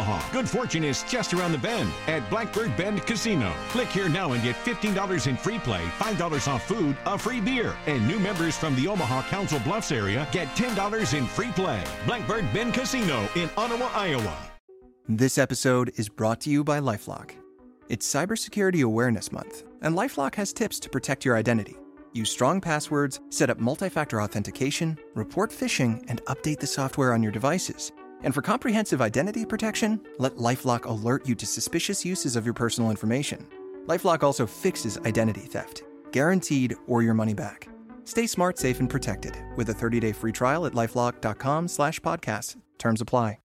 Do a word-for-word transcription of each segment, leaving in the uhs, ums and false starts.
Omaha. Good fortune is just around the bend at Blackbird Bend Casino. Click here now and get fifteen dollars in free play, five dollars off food, a free beer. And new members from the Omaha Council Bluffs area get ten dollars in free play. Blackbird Bend Casino in Ottawa, Iowa. This episode is brought to you by LifeLock. It's Cybersecurity Awareness Month, and LifeLock has tips to protect your identity. Use strong passwords, set up multi-factor authentication, report phishing, and update the software on your devices. And for comprehensive identity protection, let LifeLock alert you to suspicious uses of your personal information. LifeLock also fixes identity theft, guaranteed or your money back. Stay smart, safe, and protected with a thirty-day free trial at LifeLock.com slash podcast. Terms apply.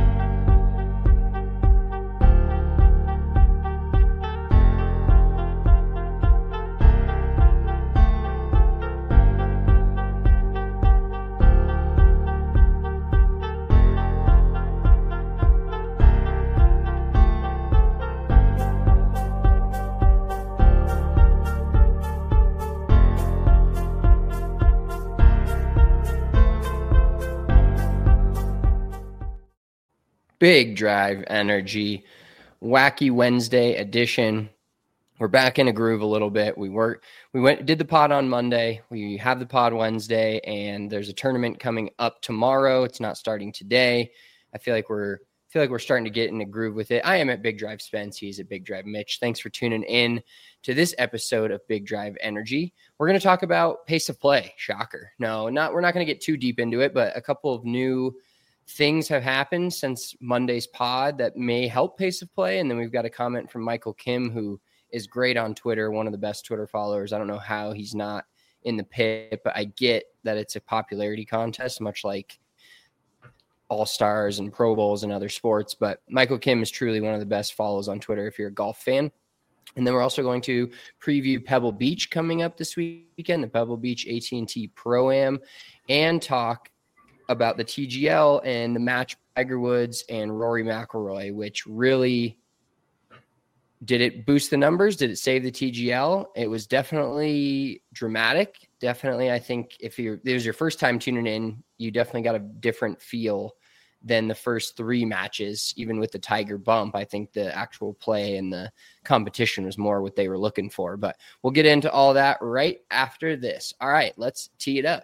Big Drive Energy, Wacky Wednesday edition. We're back in a groove a little bit. We were we went did the pod on Monday. We have the pod Wednesday, and there's a tournament coming up tomorrow. It's not starting today. I feel like we're feel like we're starting to get in a groove with it. I am at Big Drive Spence. He's at Big Drive Mitch. Thanks for tuning in to this episode of Big Drive Energy. We're going to talk about pace of play. Shocker. No, not we're not going to get too deep into it, but a couple of new things have happened since Monday's pod that may help pace of play. And then we've got a comment from Michael Kim, who is great on Twitter, one of the best Twitter followers. I don't know how he's not in the pit, but I get that it's a popularity contest, much like All-Stars and Pro Bowls and other sports. But Michael Kim is truly one of the best follows on Twitter if you're a golf fan. And then we're also going to preview Pebble Beach coming up this weekend, the Pebble Beach A T and T Pro-Am, and talk about the T G L and the match Tiger Woods and Rory McIlroy, which really did it boost the numbers? Did it save the T G L? It was definitely dramatic. Definitely, I think if you're, it was your first time tuning in, you definitely got a different feel than the first three matches. Even with the Tiger bump, I think the actual play and the competition was more what they were looking for. But we'll get into all that right after this. All right, let's tee it up.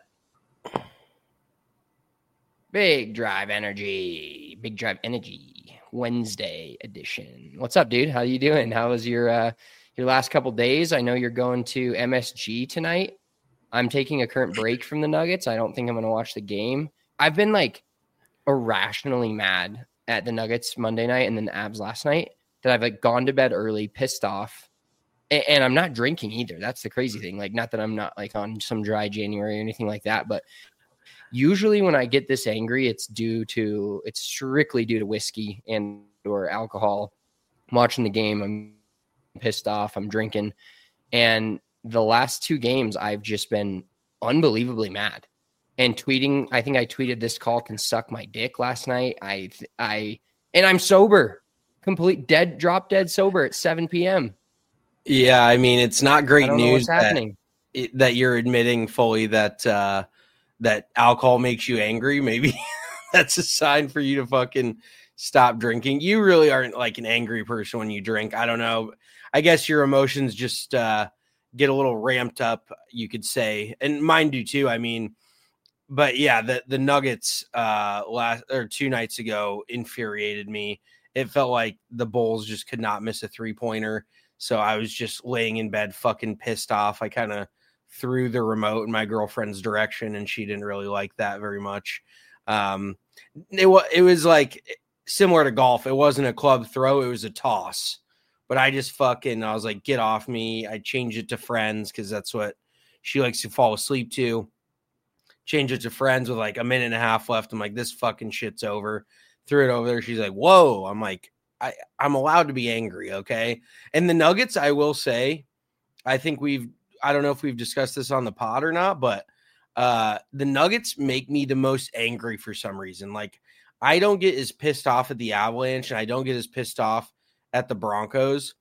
Big Drive Energy, Big Drive Energy Wednesday edition. What's up, dude? How you doing? How was your uh, your last couple days? I know you're going to M S G tonight. I'm taking a current break from the Nuggets. I don't think I'm going to watch the game. I've been like irrationally mad at the Nuggets Monday night and then the Avs last night that I've like gone to bed early, pissed off, and, and I'm not drinking either. That's the crazy thing. Like, not that I'm not like on some dry January or anything like that, but usually when I get this angry, it's due to, it's strictly due to whiskey and or alcohol. I'm watching the game, I'm pissed off, I'm drinking. And the last two games, I've just been unbelievably mad. And tweeting, I think I tweeted this call can suck my dick last night. I, I, and I'm sober, complete dead, drop dead sober at seven p.m. Yeah, I mean, it's not great news that, happening. It, that you're admitting fully that, uh, that alcohol makes you angry. Maybe that's a sign for you to fucking stop drinking. You really aren't like an angry person when you drink. I don't know. I guess your emotions just uh, get a little ramped up, you could say. And mine do too. I mean, but yeah, the, the Nuggets uh, last or two nights ago infuriated me. It felt like the Bulls just could not miss a three pointer. So I was just laying in bed, fucking pissed off. I kind of threw the remote in my girlfriend's direction, and she didn't really like that very much. Um, it was it was like similar to golf. It wasn't a club throw; it was a toss. But I just fucking I was like, "Get off me!" I changed it to friends because that's what she likes to fall asleep to. Change it to friends with like a minute and a half left. I'm like, "This fucking shit's over." Threw it over there. She's like, "Whoa!" I'm like, I, "I'm allowed to be angry, okay?" And the Nuggets, I will say, I think we've. I don't know if we've discussed this on the pod or not, but uh, the Nuggets make me the most angry for some reason. Like, I don't get as pissed off at the Avalanche, and I don't get as pissed off at the Broncos.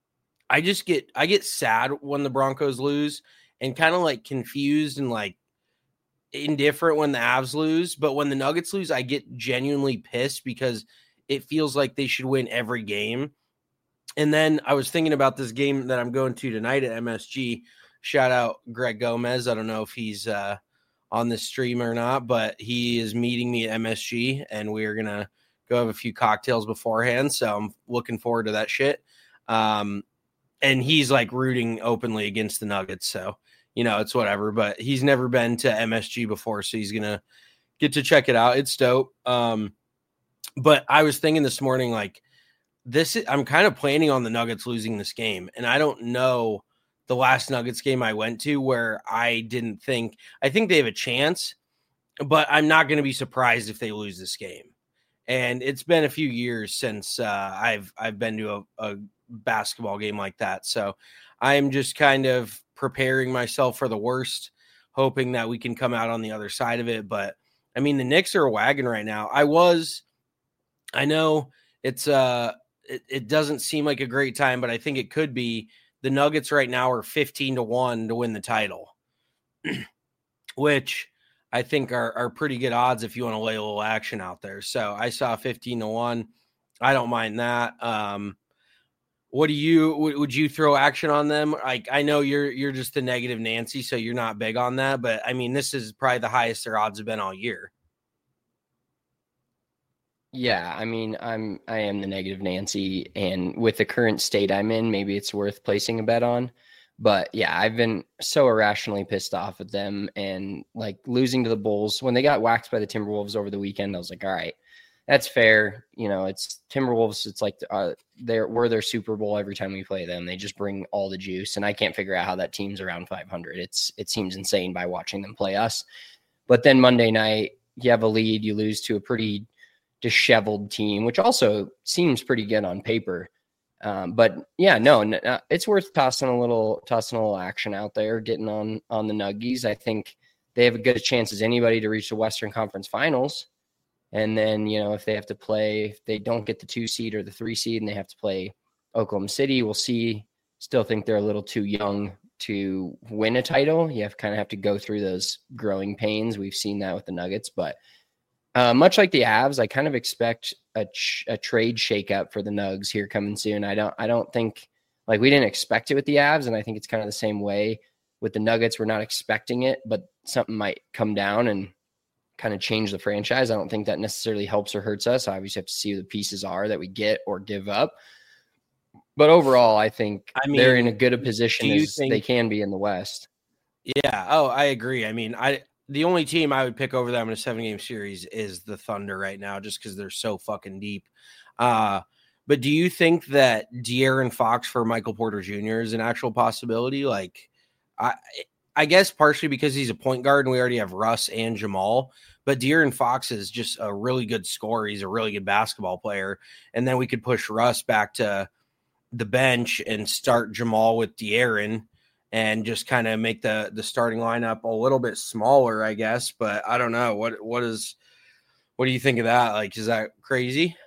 I just get, I get sad when the Broncos lose and kind of like confused and like indifferent when the Avs lose. But when the Nuggets lose, I get genuinely pissed because it feels like they should win every game. And then I was thinking about this game that I'm going to tonight at M S G. Shout out Greg Gomez. I don't know if he's uh, on this stream or not, but he is meeting me at M S G, and we're going to go have a few cocktails beforehand. So I'm looking forward to that shit. Um, and he's like rooting openly against the Nuggets. So, you know, it's whatever, but he's never been to M S G before. So he's going to get to check it out. It's dope. Um, but I was thinking this morning, like, This I'm kind of planning on the Nuggets losing this game. And I don't know the last Nuggets game I went to where I didn't think, I think they have a chance, but I'm not going to be surprised if they lose this game. And it's been a few years since uh, I've, I've been to a, a basketball game like that. So I'm just kind of preparing myself for the worst, hoping that we can come out on the other side of it. But I mean, the Knicks are a wagon right now. I was, I know it's uh It, it doesn't seem like a great time, but I think it could be. The Nuggets right now are fifteen to one to win the title, which I think are, are pretty good odds if you want to lay a little action out there. So I saw fifteen to one. I don't mind that. Um, what do you, w- would you throw action on them? Like, I know you're, you're just the negative Nancy, so you're not big on that, but I mean, this is probably the highest their odds have been all year. Yeah, I mean, I'm I am the negative Nancy, and with the current state I'm in, maybe it's worth placing a bet on. But yeah, I've been so irrationally pissed off at them, and like losing to the Bulls when they got waxed by the Timberwolves over the weekend. I was like, all right, that's fair. You know, it's Timberwolves. It's like uh, they're we're their Super Bowl every time we play them. They just bring all the juice, and I can't figure out how that team's around five hundred. It's it seems insane by watching them play us. But then Monday night, you have a lead, you lose to a pretty disheveled team, which also seems pretty good on paper. Um, but yeah, no, no, it's worth tossing a little, tossing a little action out there, getting on, on the Nuggies. I think they have a good chance as anybody to reach the Western Conference Finals. And then, you know, if they have to play, if they don't get the two seed or the three seed and they have to play Oklahoma City, we'll see. Still think they're a little too young to win a title. You have kind of have to go through those growing pains. We've seen that with the Nuggets, but Uh, much like the Avs, I kind of expect a, ch- a trade shakeup for the Nugs here coming soon. I don't, I don't think like we didn't expect it with the Avs, and I think it's kind of the same way with the Nuggets. We're not expecting it, but something might come down and kind of change the franchise. I don't think that necessarily helps or hurts us. I obviously have to see who the pieces are that we get or give up. But overall, I think I mean, they're in a good a position as think, they can be in the West. Yeah. Oh, I agree. I mean, I. The only team I would pick over them in a seven-game series is the Thunder right now, just because they're so fucking deep. Uh, but do you think that De'Aaron Fox for Michael Porter Junior is an actual possibility? Like, I I guess partially because he's a point guard and we already have Russ and Jamal, but De'Aaron Fox is just a really good scorer. He's a really good basketball player. And then we could push Russ back to the bench and start Jamal with De'Aaron and just kind of make the the starting lineup a little bit smaller, I guess. But I don't know. What what is what do you think of that? Like, is that crazy?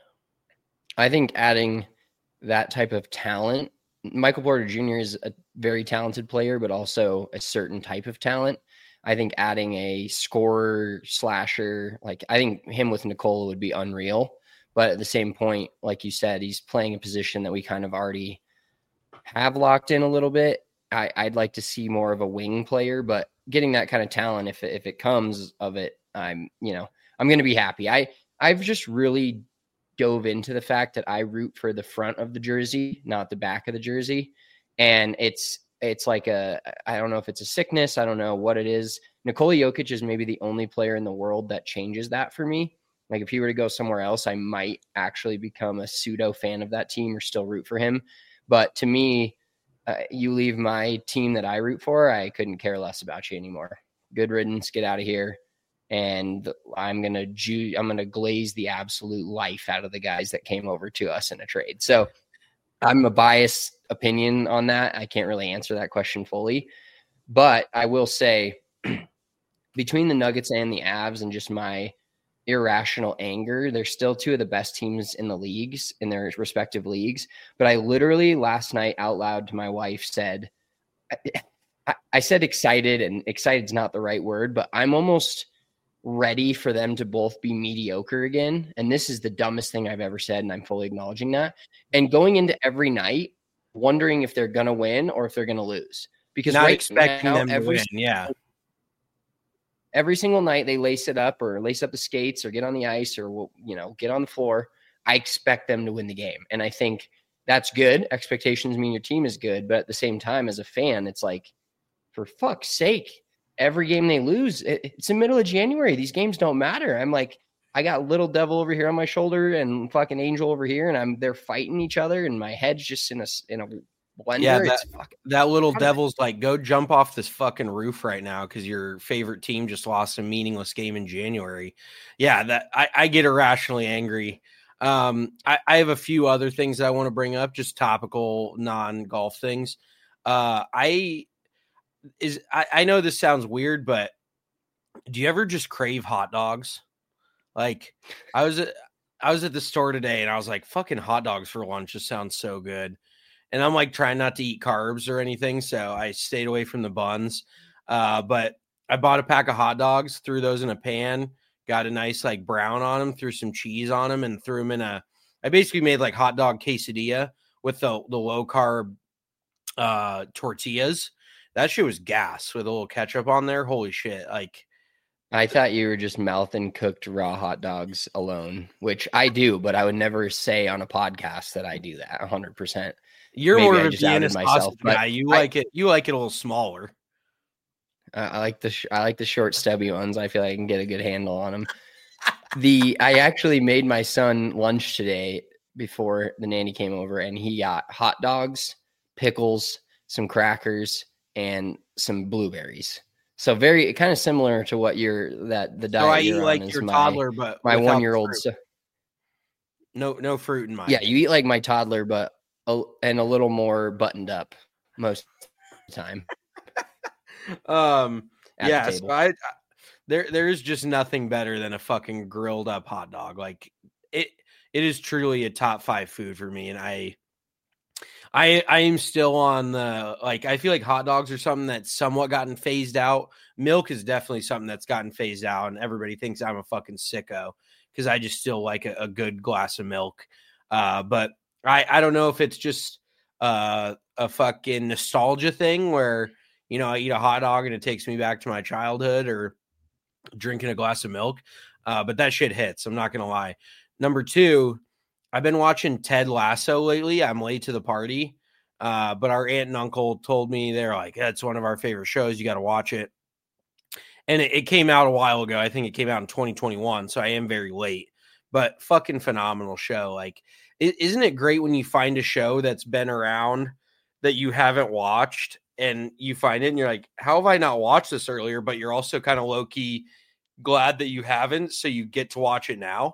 I think adding that type of talent, Michael Porter Junior is a very talented player, but also a certain type of talent. I think adding a scorer slasher, like I think him with Nikola would be unreal. But at the same point, like you said, he's playing a position that we kind of already have locked in a little bit. I, I'd like to see more of a wing player, but getting that kind of talent, if if it comes of it, I'm you know I'm going to be happy. I I've just really dove into the fact that I root for the front of the jersey, not the back of the jersey, and it's it's like a I don't know if it's a sickness, I don't know what it is. Nikola Jokic is maybe the only player in the world that changes that for me. Like if he were to go somewhere else, I might actually become a pseudo fan of that team or still root for him. But to me, Uh, you leave my team that I root for, I couldn't care less about you anymore. Good riddance, get out of here. And I'm going to ju- I'm going to glaze the absolute life out of the guys that came over to us in a trade. So I'm a biased opinion on that. I can't really answer that question fully, but I will say between the Nuggets and the Avs and just my irrational anger, they're still two of the best teams in the leagues, in their respective leagues. But I literally last night out loud to my wife said, I, I said excited, and excited is not the right word, but I'm almost ready for them to both be mediocre again. And this is the dumbest thing I've ever said, and I'm fully acknowledging that. And going into every night, wondering if they're going to win or if they're going to lose. Because not right expecting now, them to every, win, yeah. Every single night they lace it up or lace up the skates or get on the ice or, you know, get on the floor. I expect them to win the game. And I think that's good. Expectations mean your team is good. But at the same time, as a fan, it's like, for fuck's sake, every game they lose, it's the middle of January. These games don't matter. I'm like, I got little devil over here on my shoulder and fucking angel over here, and I'm they're fighting each other, and my head's just in a in a blender. Yeah, that, it's fucking, that little devil's like, go jump off this fucking roof right now because your favorite team just lost a meaningless game in January. Yeah, that I, I get irrationally angry. Um, I, I have a few other things that I want to bring up, just topical, non-golf things. Uh, I is I, I know this sounds weird, but do you ever just crave hot dogs? Like I was at I was at the store today and I was like, fucking hot dogs for lunch just sounds so good. And I'm like trying not to eat carbs or anything, so I stayed away from the buns. Uh, but I bought a pack of hot dogs, threw those in a pan, got a nice like brown on them, threw some cheese on them, and threw them in a. I basically made like hot dog quesadilla with the the low carb uh, tortillas. That shit was gas with a little ketchup on there. Holy shit! Like, I thought you were just mouthing cooked raw hot dogs alone, which I do, but I would never say on a podcast that I do that one hundred percent. You're Maybe more I of a just outed Vienna myself, sausage but guy. You I- like it. You like it a little smaller. Uh, I like the sh- I like the short, stubby ones. I feel like I can get a good handle on them. the I actually made my son lunch today before the nanny came over, and he got hot dogs, pickles, some crackers, and some blueberries. So very kind of similar to what you're that the diet. So I you're eat on like is your my, toddler, but my without the one year old. fruit. So, No, no fruit in mine. yeah, you eat like my toddler, but a, and a little more buttoned up most of the time. Um. at the Yeah. So table. I, I there there is just nothing better than a fucking grilled up hot dog. Like it it is truly a top five food for me, and I. I I am still on the like I feel like hot dogs are something that's somewhat gotten phased out. Milk is definitely something that's gotten phased out, and everybody thinks I'm a fucking sicko because I just still like a, a good glass of milk. Uh, but I I don't know if it's just uh, a fucking nostalgia thing where you know I eat a hot dog and it takes me back to my childhood or drinking a glass of milk. Uh, but that shit hits. I'm not gonna lie. Number two. I've been watching Ted Lasso lately. I'm late to the party, uh, but our aunt and uncle told me they're like, that's one of our favorite shows. You got to watch it. And it, it came out a while ago. I think it came out in twenty twenty-one, so I am very late. But fucking phenomenal show. Like, it, isn't it great when you find a show that's been around that you haven't watched and you find it and you're like, how have I not watched this earlier? But you're also kind of low key glad that you haven't, so you get to watch it now.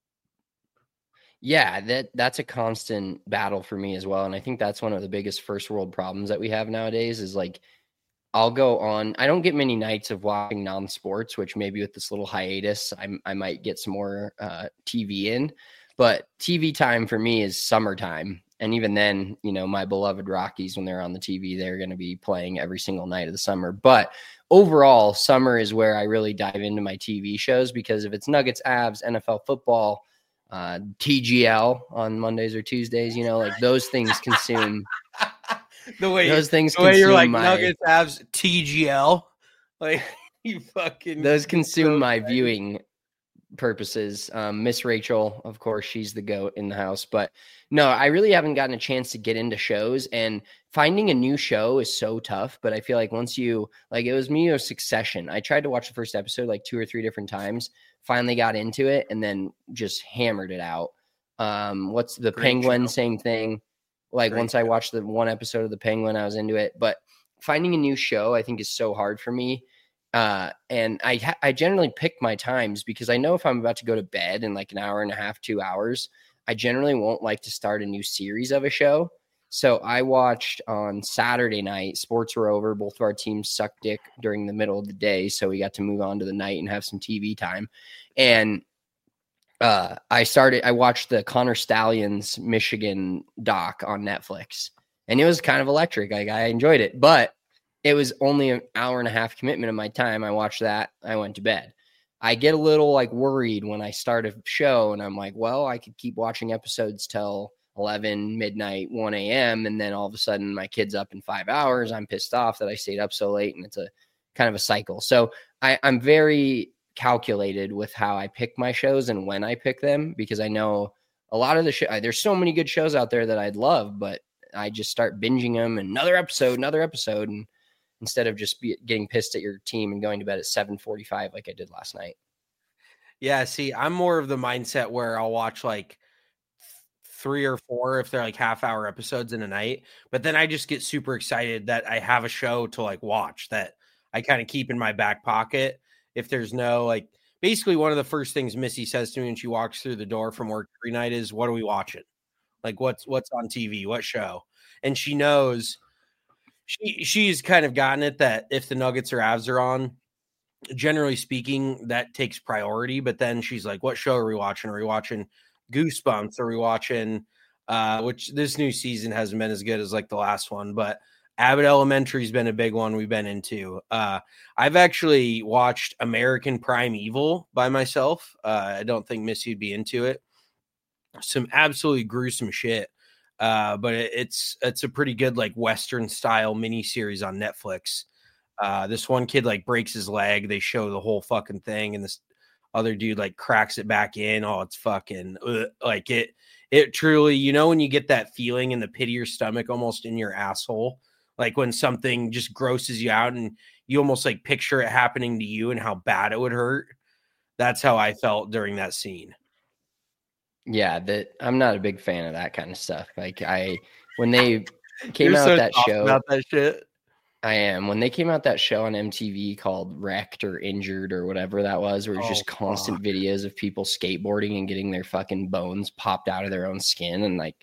Yeah, that that's a constant battle for me as well. And I think that's one of the biggest first world problems that we have nowadays is like, I'll go on, I don't get many nights of watching non-sports, which maybe with this little hiatus, I, I might get some more uh, T V in, but T V time for me is summertime. And even then, you know, my beloved Rockies, when they're on the T V, they're going to be playing every single night of the summer. But overall, summer is where I really dive into my T V shows because if it's Nuggets, Avs, N F L football, uh T G L on Mondays or Tuesdays, you know, like those things consume the way those things the way you're like my, Nuggets Avs T G L, like you fucking those consume so my funny. viewing purposes. um Miss Rachel, of course, she's the goat in the house, but no, I really haven't gotten a chance to get into shows, and finding a new show is so tough. But I feel like once you like, it was me or Succession. I tried to watch the first episode like two or three different times, finally got into it, and then just hammered it out. Um, what's the Great Penguin? show. Same thing. Like Great once I show. watched the one episode of the Penguin, I was into it. But finding a new show, I think, is so hard for me. Uh, and I ha- I generally pick my times because I know if I'm about to go to bed in like an hour and a half, two hours, I generally won't like to start a new series of a show. So I watched on Saturday night, sports were over. Both of our teams sucked dick during the middle of the day. So we got to move on to the night and have some T V time. And uh, I started, I watched the Connor Stallions Michigan doc on Netflix, and it was kind of electric. Like, I enjoyed it, but it was only an hour and a half commitment of my time. I watched that. I went to bed. I get a little like worried when I start a show and I'm like, well, I could keep watching episodes till eleven, midnight, one a.m. And then all of a sudden my kid's up in five hours. I'm pissed off that I stayed up so late, and it's a kind of a cycle. So I, I'm very calculated with how I pick my shows and when I pick them, because I know a lot of the show, there's so many good shows out there that I'd love, but I just start binging them, and another episode, another episode. And instead of just be, getting pissed at your team and going to bed at seven forty-five like I did last night. Yeah, see, I'm more of the mindset where I'll watch like three or four if they're like half hour episodes in a night, but then I just get super excited that I have a show to like watch that I kind of keep in my back pocket. If there's no like, basically one of the first things Missy says to me when she walks through the door from work every night is, what are we watching? Like what's, what's on T V, what show? And she knows she, she's kind of gotten it that if the Nuggets or Avs are on, generally speaking, that takes priority. But then she's like, what show are we watching? Are we watching Goosebumps? Are we watching, uh, which this new season hasn't been as good as like the last one, but Abbott Elementary has been a big one we've been into. Uh, I've actually watched American Primeval by myself. Uh, I don't think Missy would be into it. Some absolutely gruesome shit. Uh, but it, it's, it's a pretty good, like Western style mini series on Netflix. Uh, this one kid like breaks his leg. They show the whole fucking thing, and this other dude like cracks it back in. Oh, it's fucking ugh. Like it, it truly, you know, when you get that feeling in the pit of your stomach, almost in your asshole, like when something just grosses you out and you almost like picture it happening to you and how bad it would hurt. That's how I felt during that scene. Yeah, that I'm not a big fan of that kind of stuff. Like I, when they came out so that show about that shit. I am. When they came out that show on M T V called Wrecked or Injured or whatever that was, where it's oh, just constant fuck. videos of people skateboarding and getting their fucking bones popped out of their own skin. And like,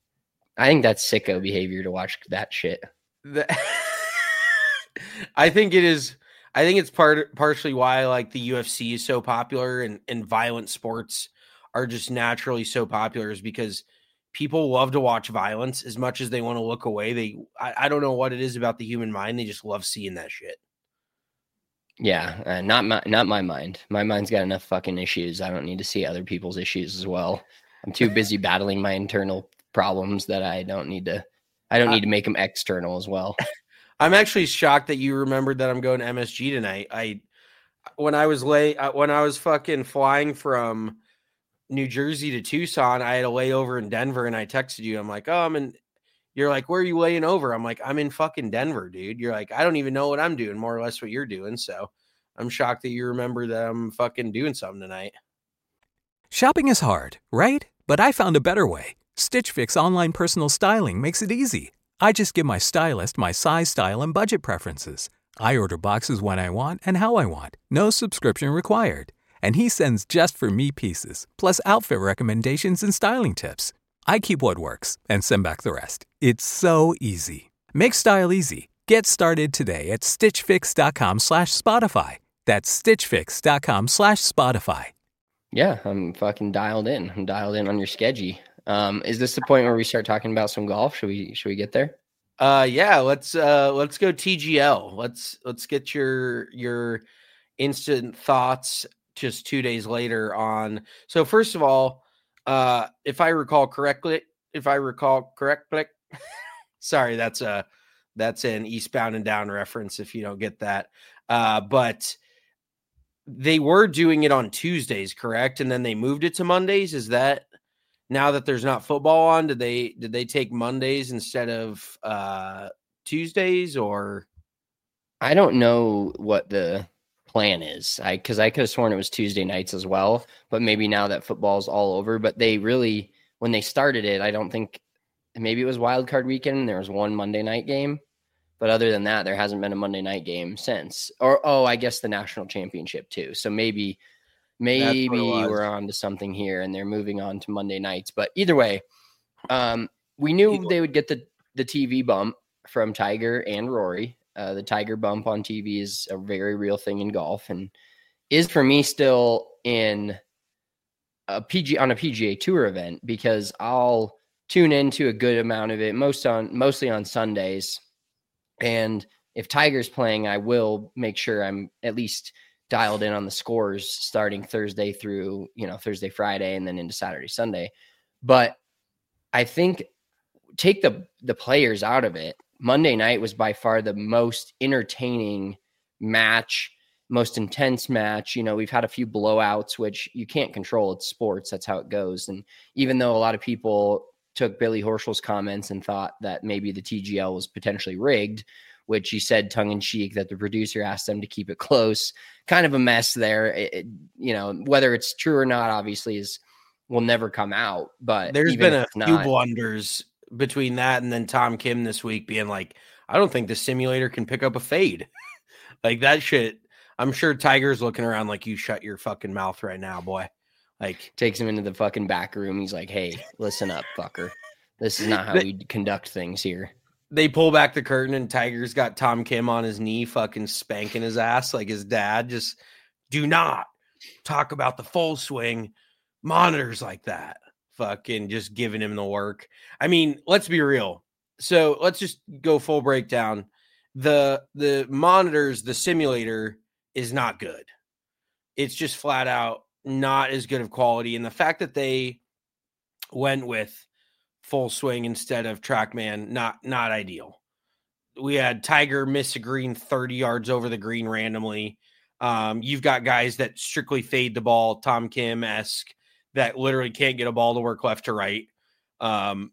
I think that's sicko behavior to watch that shit. The, I think it is. I think it's part partially why like the U F C is so popular and, and violent sports are just naturally so popular, is because people love to watch violence as much as they want to look away. They, I, I don't know what it is about the human mind. They just love seeing that shit. Yeah, uh, not my, not my mind. My mind's got enough fucking issues. I don't need to see other people's issues as well. I'm too busy battling my internal problems that I don't need to. I don't need to make them external as well. I'm actually shocked that you remembered that I'm going to M S G tonight. I, when I was late, when I was fucking flying from New Jersey to Tucson, I had a layover in Denver, and I texted you. I'm like, oh, I'm in. You're like, where are you laying over? I'm like, I'm in fucking Denver, dude. You're like, I don't even know what I'm doing, more or less what you're doing. So I'm shocked that you remember that I'm fucking doing something tonight. Shopping is hard, right? But I found a better way. Stitch Fix online personal styling makes it easy. I just give my stylist my size, style, and budget preferences. I order boxes when I want and how I want. No subscription required. And he sends just for me pieces, plus outfit recommendations and styling tips. I keep what works and send back the rest. It's so easy. Make style easy. Get started today at stitchfix.com slash Spotify. That's stitchfix.com slash Spotify. Yeah, I'm fucking dialed in. I'm dialed in on your schedule. Um, is this the point where we start talking about some golf? Should we should we get there? Uh yeah, let's uh let's go T G L. Let's let's get your your instant thoughts just two days later on. So first of all, uh, if I recall correctly, if I recall correctly, sorry, that's a, that's an Eastbound and Down reference if you don't get that. Uh, but they were doing it on Tuesdays, correct? And then they moved it to Mondays. Is that now that there's not football on, did they, did they take Mondays instead of uh, Tuesdays, or? I don't know what the plan is. I, cause I could have sworn it was Tuesday nights as well, but maybe now that football's all over, but they really, when they started it, I don't think, maybe it was wild card weekend and there was one Monday night game, but other than that, there hasn't been a Monday night game since, or, oh, I guess the national championship too. So maybe, maybe we're on to something here and they're moving on to Monday nights, but either way, um, we knew they would get the, the T V bump from Tiger and Rory. Uh, the Tiger bump on T V is a very real thing in golf, and is for me still in a P G on a P G A Tour event, because I'll tune into a good amount of it, most on mostly on Sundays. And if Tiger's playing, I will make sure I'm at least dialed in on the scores starting Thursday through, you know, Thursday, Friday, and then into Saturday, Sunday. But I think take the the players out of it. Monday night was by far the most entertaining match, most intense match. You know, we've had a few blowouts, which you can't control. It's sports. That's how it goes. And even though a lot of people took Billy Horschel's comments and thought that maybe the T G L was potentially rigged, which he said tongue in cheek that the producer asked them to keep it close, kind of a mess there. It, it, you know, whether it's true or not, obviously is will never come out, but there's been a few not, blunders between that and then Tom Kim this week being like, I don't think the simulator can pick up a fade. Like that shit. I'm sure Tiger's looking around like, you shut your fucking mouth right now, boy. Like takes him into the fucking back room. He's like, hey, listen up, fucker. This is not how we conduct things here. They pull back the curtain and Tiger's got Tom Kim on his knee, fucking spanking his ass like his dad. Just do not talk about the full swing monitors like that. Fucking just giving him the work. I mean, let's be real. So let's just go full breakdown. The the monitors, the simulator is not good. It's just flat out not as good of quality. And the fact that they went with full swing instead of TrackMan, not not ideal. We had Tiger miss a green thirty yards over the green randomly. Um, you've got guys that strictly fade the ball, Tom Kim-esque, that literally can't get a ball to work left to right. Um,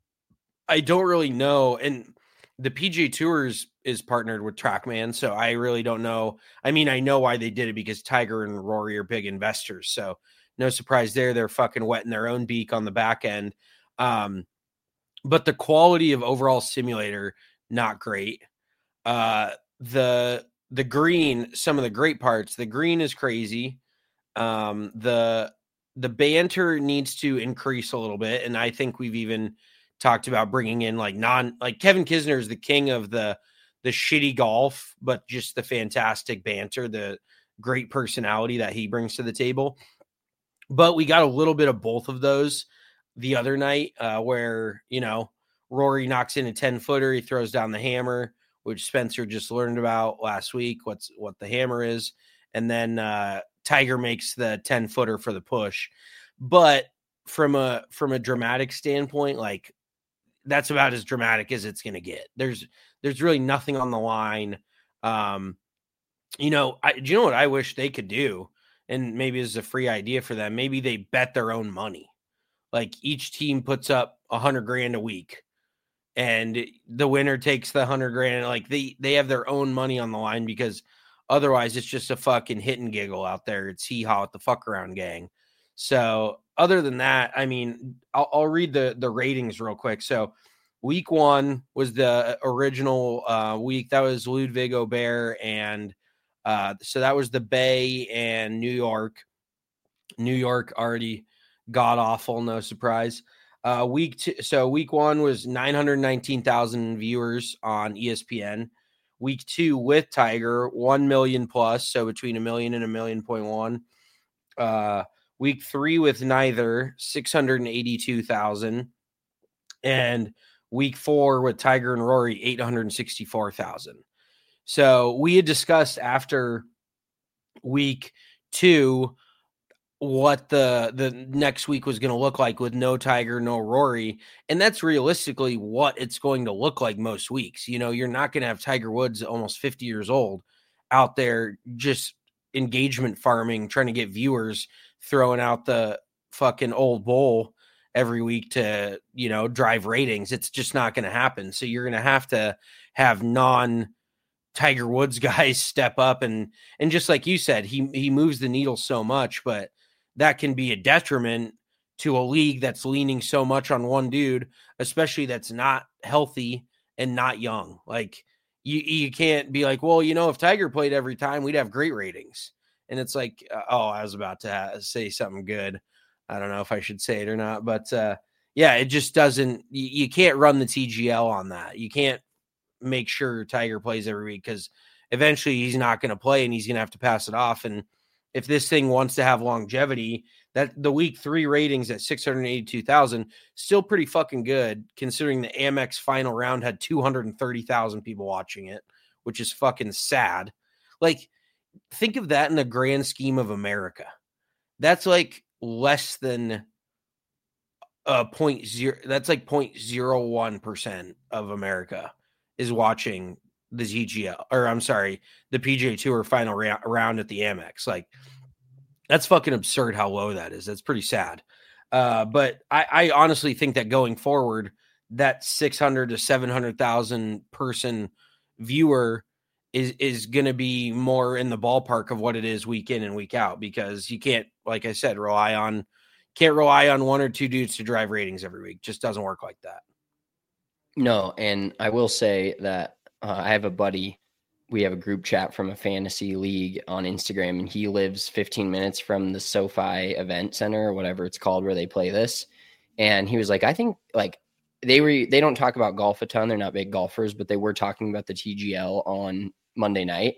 I don't really know. And the P G A Tour is, is partnered with TrackMan, so I really don't know. I mean, I know why they did it because Tiger and Rory are big investors, so no surprise there. They're fucking wetting their own beak on the back end. Um, but the quality of overall simulator, not great. Uh, the the green, some of the great parts, the green is crazy. Um, the the banter needs to increase a little bit, and I think we've even talked about bringing in like non like Kevin Kisner is the king of the the shitty golf, but just the fantastic banter, the great personality that he brings to the table. But we got a little bit of both of those the other night, uh, where, you know, Rory knocks in a ten footer, he throws down the hammer, which Spencer just learned about last week, what's what the hammer is. And then uh, Tiger makes the ten footer for the push. But from a, from a dramatic standpoint, like that's about as dramatic as it's going to get. There's, there's really nothing on the line. Um, you know, I, do you know what I wish they could do? And maybe this is a free idea for them. Maybe they bet their own money. Like each team puts up a hundred grand a week and the winner takes the hundred grand. Like they, they have their own money on the line, because otherwise it's just a fucking hit and giggle out there. It's hee haw at the fuck around gang. So other than that, I mean, I'll, I'll read the, the ratings real quick. So week one was the original uh, week. That was Ludwig Aubert. And uh, so that was the Bay and New York. New York already god awful, no surprise. Uh, week two, so week one was nine hundred nineteen thousand viewers on E S P N. Week two with Tiger, one million plus, so between a million and a million point one. Uh, week three with neither, six hundred eighty-two thousand. And week four with Tiger and Rory, eight hundred sixty-four thousand. So we had discussed after week two what the the next week was going to look like with no Tiger, no Rory. And that's realistically what it's going to look like most weeks. You know, you're not going to have Tiger Woods, almost fifty years old, out there just engagement farming, trying to get viewers, throwing out the fucking old bowl every week to, you know, drive ratings. It's just not going to happen. So you're going to have to have non Tiger Woods guys step up. And, and just like you said, he, he moves the needle so much, but that can be a detriment to a league that's leaning so much on one dude, especially that's not healthy and not young. Like you, you can't be like, well, you know, if Tiger played every time, we'd have great ratings. And it's like, uh, oh, I was about to ha- say something good. I don't know if I should say it or not, but uh, yeah, it just doesn't, you, you can't run the T G L on that. You can't make sure Tiger plays every week, because eventually he's not going to play and he's going to have to pass it off. And if this thing wants to have longevity, that the week three ratings at six hundred eighty-two thousand, still pretty fucking good, considering the Amex final round had two hundred thirty thousand people watching it, which is fucking sad. Like think of that in the grand scheme of America. That's like less than a point zero. That's like point zero one percent of America is watching the T G L, or I'm sorry, the P G A Tour final ra- round at the Amex. Like, that's fucking absurd how low that is. That's pretty sad. Uh, but I, I honestly think that going forward, that six hundred to seven hundred thousand person viewer is is going to be more in the ballpark of what it is week in and week out, because you can't, like I said, rely on can't rely on one or two dudes to drive ratings every week. Just doesn't work like that. No, and I will say that uh, I have a buddy. We have a group chat from a fantasy league on Instagram, and he lives fifteen minutes from the SoFi Event Center or whatever it's called where they play this. And he was like, I think like they were, they don't talk about golf a ton. They're not big golfers, but they were talking about the T G L on Monday night.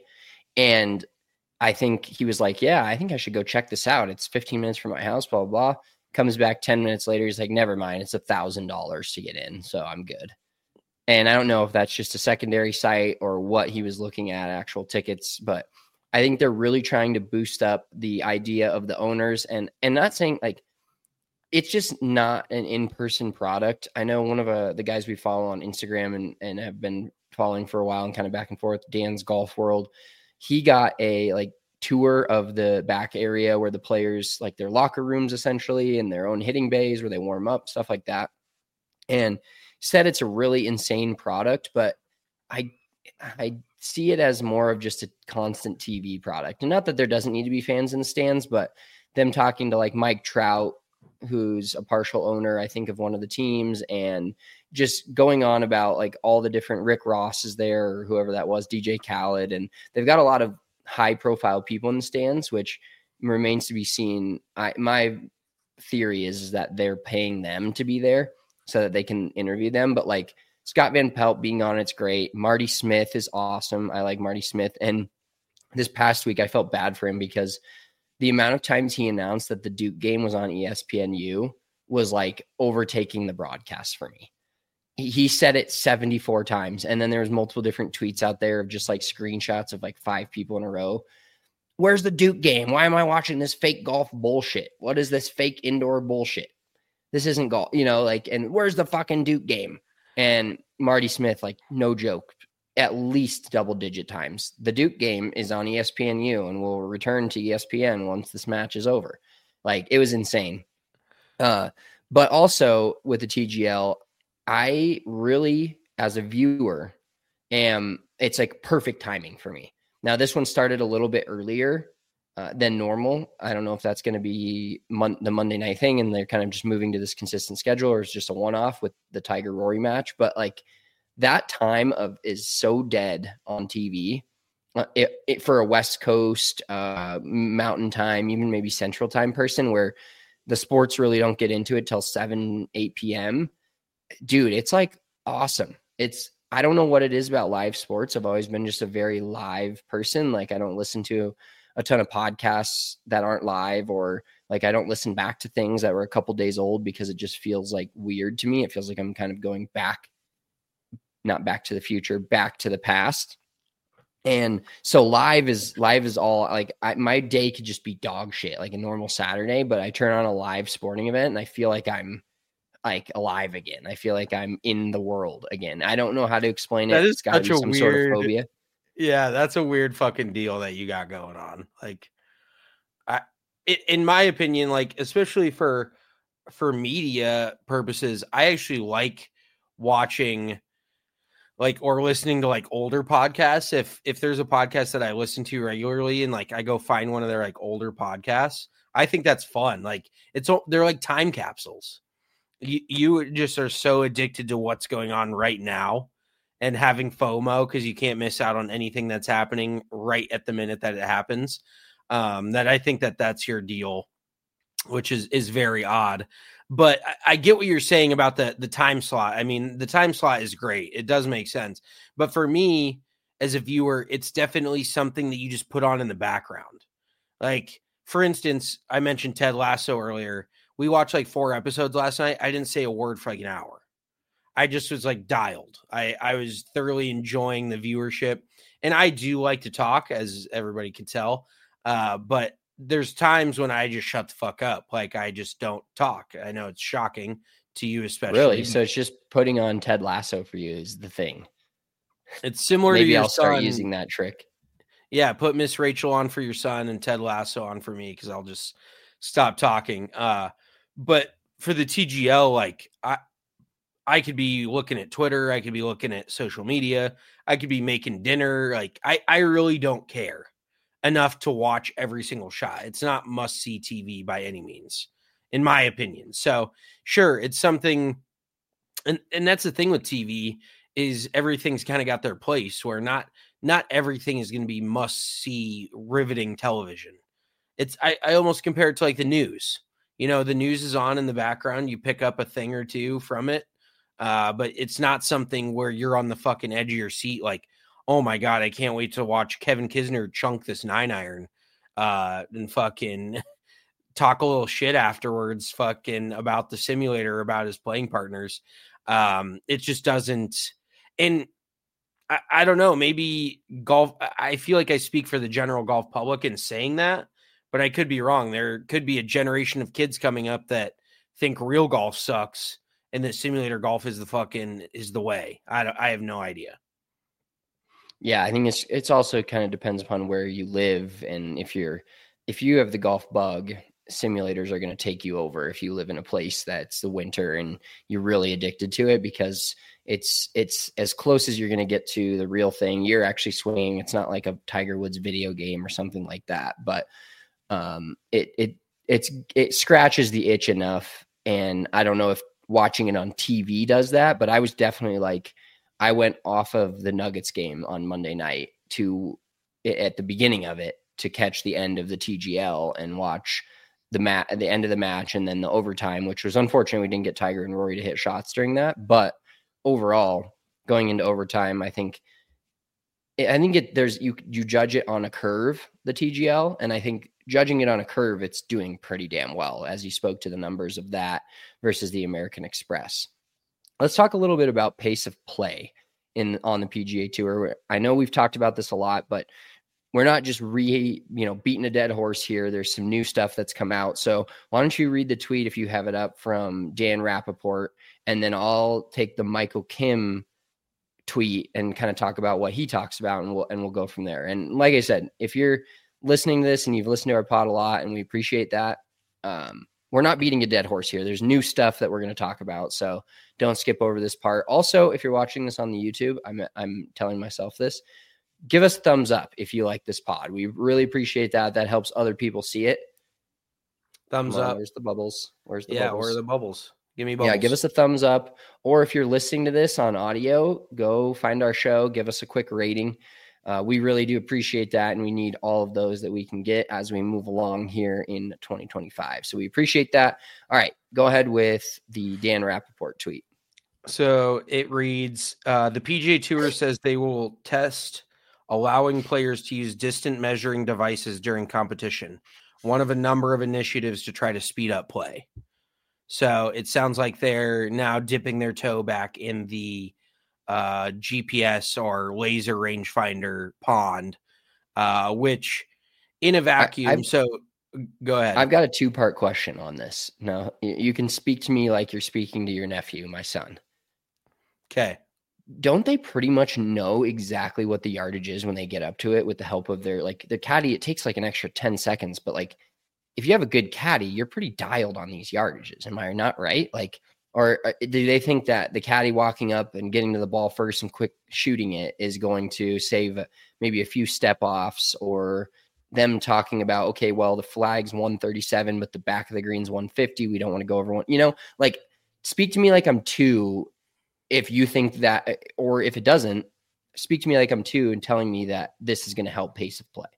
And I think he was like, yeah, I think I should go check this out. It's fifteen minutes from my house, blah, blah, blah. Comes back ten minutes later. He's like, never mind. It's a thousand dollars to get in. So I'm good. And I don't know if that's just a secondary site or what he was looking at, actual tickets, but I think they're really trying to boost up the idea of the owners, and, and not saying like, it's just not an in-person product. I know one of uh, the guys we follow on Instagram and, and have been following for a while and kind of back and forth, Dan's Golf World. He got a like tour of the back area where the players, like their locker rooms essentially, and their own hitting bays where they warm up, stuff like that. And said it's a really insane product, but I I see it as more of just a constant T V product. And not that there doesn't need to be fans in the stands, but them talking to like Mike Trout, who's a partial owner, I think, of one of the teams, and just going on about like all the different Rick Ross is there, or whoever that was, D J Khaled. And they've got a lot of high profile people in the stands, which remains to be seen. I, my theory is, is that they're paying them to be there so that they can interview them. But like Scott Van Pelt being on, it's great. Marty Smith is awesome. I like Marty Smith. And this past week, I felt bad for him because the amount of times he announced that the Duke game was on E S P N U was like overtaking the broadcast for me. He, he said it seventy-four times. And then there was multiple different tweets out there of just like screenshots of like five people in a row. Where's the Duke game? Why am I watching this fake golf bullshit? What is this fake indoor bullshit? This isn't golf, you know, like, and where's the fucking Duke game? And Marty Smith, like, no joke, at least double digit times. The Duke game is on E S P N U and will return to E S P N once this match is over. Like, it was insane. Uh, but also with the T G L, I really, as a viewer, am, it's like perfect timing for me. Now, this one started a little bit earlier Uh, than normal. I don't know if that's going to be mon- the Monday night thing and they're kind of just moving to this consistent schedule, or it's just a one-off with the Tiger Rory match. But like that time of is so dead on T V uh, it, it, for a West Coast uh, mountain time, even maybe central time person, where the sports really don't get into it till seven, eight p.m. Dude, it's like awesome. It's, I don't know what it is about live sports. I've always been just a very live person. Like I don't listen to a ton of podcasts that aren't live, or like I don't listen back to things that were a couple days old because it just feels like weird to me. It feels like I'm kind of going back, not back to the future, back to the past. And so live is live is all like I, my day could just be dog shit, like a normal Saturday, but I turn on a live sporting event and I feel like I'm like alive again. I feel like I'm in the world again. I don't know how to explain it. That is it's got to such be a some weird, sort of phobia. Yeah, that's a weird fucking deal that you got going on. Like, I, it, in my opinion, like especially for for media purposes, I actually like watching, like, or listening to like older podcasts. If if there's a podcast that I listen to regularly and like I go find one of their like older podcasts, I think that's fun. Like it's they're like time capsules. You you just are so addicted to what's going on right now. And having FOMO because you can't miss out on anything that's happening right at the minute that it happens. Um, that I think that that's your deal, which is is very odd. But I, I get what you're saying about the the time slot. I mean, the time slot is great. It does make sense. But for me, as a viewer, it's definitely something that you just put on in the background. Like, for instance, I mentioned Ted Lasso earlier. We watched like four episodes last night. I didn't say a word for like an hour. I just was like dialed. I, I was thoroughly enjoying the viewership. And I do like to talk, as everybody can tell. Uh, but there's times when I just shut the fuck up. Like I just don't talk. I know it's shocking to you, especially. Really? So it's just putting on Ted Lasso for you is the thing. It's similar Maybe to your I'll start son. using that trick. Yeah, put Miss Rachel on for your son and Ted Lasso on for me because I'll just stop talking. Uh, but for the T G L, like I, I could be looking at Twitter, I could be looking at social media, I could be making dinner. Like I, I really don't care enough to watch every single shot. It's not must see T V by any means, in my opinion. So sure, it's something, and and that's the thing with T V is everything's kind of got their place where not. Not everything is going to be must-see, riveting television. It's I, I almost compare it to like the news. You know, the news is on in the background. You pick up a thing or two from it, uh, but it's not something where you're on the fucking edge of your seat. Like, oh my god, I can't wait to watch Kevin Kisner chunk this nine iron, uh, and fucking talk a little shit afterwards, fucking about the simulator, about his playing partners. Um, it just doesn't. And I, I don't know, maybe golf. I feel like I speak for the general golf public in saying that, but I could be wrong. There could be a generation of kids coming up that think real golf sucks and that simulator golf is the fucking is the way. I don't, I have no idea. Yeah, I think it's it's also kind of depends upon where you live, and if you're if you have the golf bug, simulators are going to take you over. If you live in a place that's the winter and you're really addicted to it, because it's it's as close as you're going to get to the real thing. You're actually swinging. It's not like a Tiger Woods video game or something like that, but um, it it it's it scratches the itch enough. And I don't know if watching it on T V does that, but I was definitely like, I went off of the Nuggets game on Monday night to at the beginning of it to catch the end of the T G L and watch the mat at the end of the match and then the overtime, which was unfortunate. We didn't get Tiger and Rory to hit shots during that, but overall, going into overtime, I think, I think it, there's, you, you judge it on a curve, the T G L. And I think judging it on a curve, it's doing pretty damn well as you spoke to the numbers of that versus the American Express. Let's talk a little bit about pace of play in on the P G A Tour. I know we've talked about this a lot, but we're not just re, you know, beating a dead horse here. There's some new stuff that's come out. So why don't you read the tweet if you have it up from Dan Rappaport, and then I'll take the Michael Kim tweet and kind of talk about what he talks about, and we'll and we'll go from there. And like I said, if you're listening to this and you've listened to our pod a lot, and we appreciate that, um, we're not beating a dead horse here. There's new stuff that we're going to talk about, so don't skip over this part. Also, if you're watching this on the YouTube, I'm I'm telling myself this. Give us a thumbs up if you like this pod. We really appreciate that. That helps other people see it. Thumbs up. Where's the bubbles? Where's the yeah, bubbles? where are the bubbles? Give me bubbles. Yeah, give us a thumbs up. Or if you're listening to this on audio, go find our show. Give us a quick rating. Uh, we really do appreciate that, and we need all of those that we can get as we move along here in twenty twenty-five. So we appreciate that. All right, go ahead with the Dan Rappaport tweet. So it reads, uh, the P G A Tour says they will test allowing players to use distant measuring devices during competition, one of a number of initiatives to try to speed up play. So it sounds like they're now dipping their toe back in the uh, G P S or laser rangefinder pond, uh, which in a vacuum. I, so go ahead. I've got a two-part question on this. Now, you can speak to me like you're speaking to your nephew, my son. Okay. Don't they pretty much know exactly what the yardage is when they get up to it with the help of their, like, the caddy? It takes like an extra ten seconds, but like, if you have a good caddy, you're pretty dialed on these yardages. Am I not right? Like, or do they think that the caddy walking up and getting to the ball first and quick shooting it is going to save maybe a few step offs, or them talking about, okay, well, the flag's one thirty-seven, but the back of the green's one fifty. We don't want to go over one, you know, like, speak to me like I'm two. If you think that, or if it doesn't, speak to me like I'm two and telling me that this is going to help pace of play.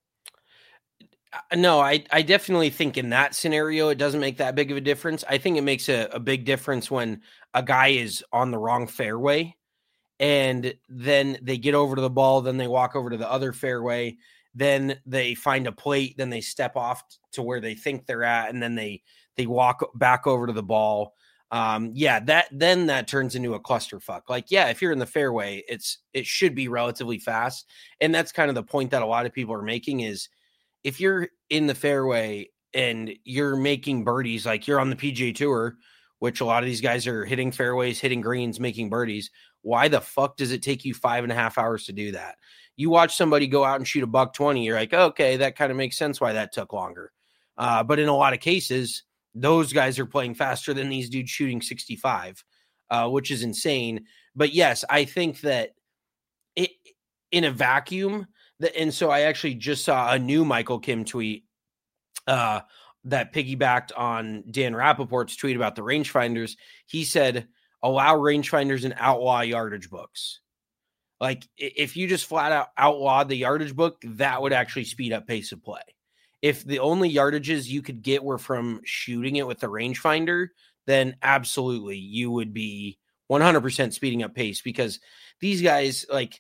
No, I, I definitely think in that scenario, it doesn't make that big of a difference. I think it makes a, a big difference when a guy is on the wrong fairway and then they get over to the ball, then they walk over to the other fairway, then they find a plate, then they step off to where they think they're at, and then they, they walk back over to the ball. Um, yeah, that then that turns into a clusterfuck. Like, yeah, if you're in the fairway, it's it should be relatively fast. And that's kind of the point that a lot of people are making is if you're in the fairway and you're making birdies, like you're on the P G A Tour, which a lot of these guys are hitting fairways, hitting greens, making birdies. Why the fuck does it take you five and a half hours to do that? You watch somebody go out and shoot a buck twenty, you're like, okay, that kind of makes sense why that took longer. Uh, but in a lot of cases, those guys are playing faster than these dudes shooting sixty-five, uh, which is insane. But yes, I think that it in a vacuum, that, and so I actually just saw a new Michael Kim tweet uh, that piggybacked on Dan Rappaport's tweet about the rangefinders. He said, allow rangefinders and outlaw yardage books. Like if you just flat out outlawed the yardage book, that would actually speed up pace of play. If the only yardages you could get were from shooting it with the rangefinder, then absolutely you would be one hundred percent speeding up pace, because these guys, like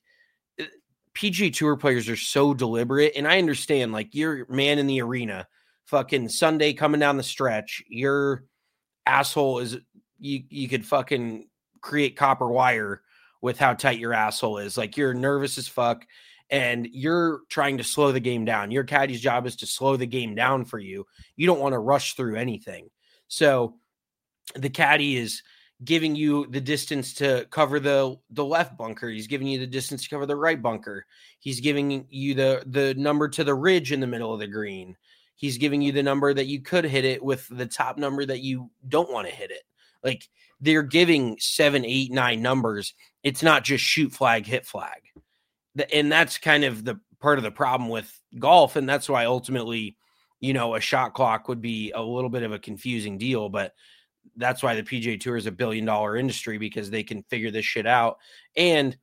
P G A Tour players, are so deliberate. And I understand, like, you're man in the arena, fucking Sunday coming down the stretch, your asshole is, you, you could fucking create copper wire with how tight your asshole is. Like, you're nervous as fuck. And you're trying to slow the game down. Your caddy's job is to slow the game down for you. You don't want to rush through anything. So the caddy is giving you the distance to cover the, the left bunker. He's giving you the distance to cover the right bunker. He's giving you the, the number to the ridge in the middle of the green. He's giving you the number that you could hit it with, the top number that you don't want to hit it. Like, they're giving seven, eight, nine numbers. It's not just shoot flag, hit flag. And that's kind of the part of the problem with golf. And that's why ultimately, you know, a shot clock would be a little bit of a confusing deal, but that's why the P G A Tour is a billion dollar industry, because they can figure this shit out. And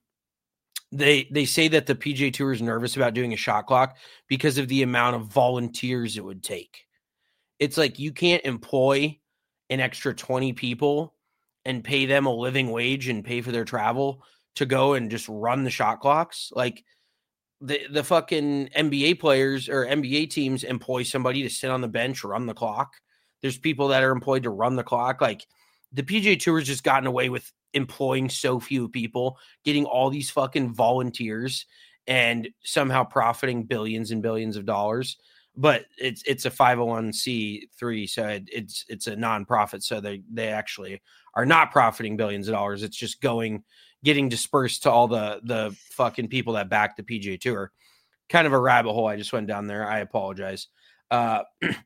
they, they say that the P G A Tour is nervous about doing a shot clock because of the amount of volunteers it would take. It's like, you can't employ an extra twenty people and pay them a living wage and pay for their travel to go and just run the shot clocks. Like the, the fucking N B A players or N B A teams employ somebody to sit on the bench, run the clock. There's people that are employed to run the clock. Like, the P G A Tour has just gotten away with employing so few people, getting all these fucking volunteers, and somehow profiting billions and billions of dollars. But it's, it's a five oh one c three. So it, it's, it's a nonprofit. So they, they actually are not profiting billions of dollars. It's just going, getting dispersed to all the, the fucking people that back the P G A Tour. Kind of a rabbit hole I just went down there. I apologize. Uh,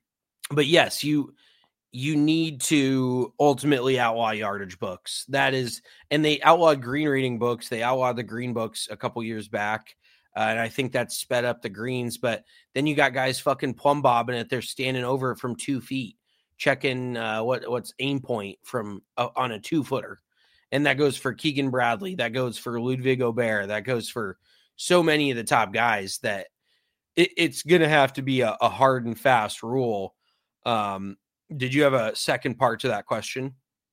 but yes, you, you need to ultimately outlaw yardage books. That is, and they outlawed green reading books. They outlawed the green books a couple years back. Uh, and I think that sped up the greens, but then you got guys fucking plumb bobbing it. They're standing over it from two feet, checking uh, what, what's aim point from uh, on a two footer. And that goes for Keegan Bradley. That goes for Ludwig Aubert. That goes for so many of the top guys that it, it's going to have to be a, a hard and fast rule. Um, did you have a second part to that question?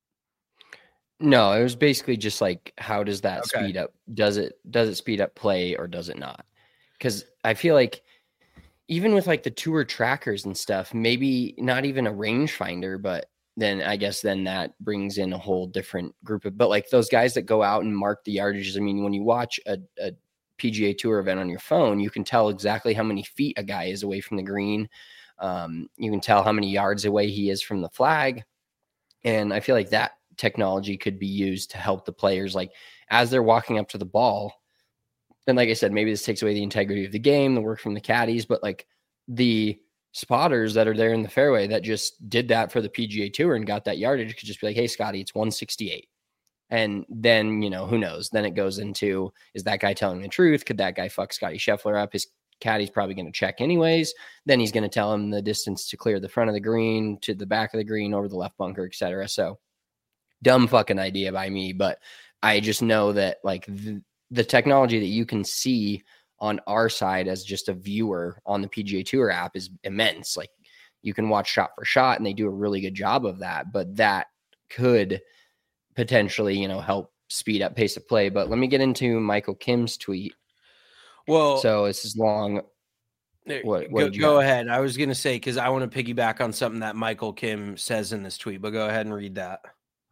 No, it was basically just like, how does that Okay. speed up? Does it, does it speed up play or does it not? Because I feel like even with like the tour trackers and stuff, maybe not even a rangefinder, but then I guess then that brings in a whole different group of, but like those guys that go out and mark the yardages. I mean, when you watch a, a P G A Tour event on your phone, you can tell exactly how many feet a guy is away from the green. Um, you can tell how many yards away he is from the flag. And I feel like that technology could be used to help the players, like as they're walking up to the ball. And like I said, maybe this takes away the integrity of the game, the work from the caddies, but like the spotters that are there in the fairway that just did that for the P G A Tour and got that yardage could just be like, hey, Scotty, it's one sixty-eight. And then, you know, who knows? Then it goes into, is that guy telling the truth? Could that guy fuck Scotty Scheffler up? His caddy's probably going to check anyways. Then he's going to tell him the distance to clear the front of the green, to the back of the green, over the left bunker, et cetera. So dumb fucking idea by me. But I just know that like the, the technology that you can see on our side as just a viewer on the P G A Tour app is immense. Like you can watch shot for shot and they do a really good job of that, but that could potentially, you know, help speed up pace of play. But let me get into Michael Kim's tweet. Well, so this is long. What, what go, did you go have? ahead. I was going to say, cause I want to piggyback on something that Michael Kim says in this tweet, but go ahead and read that.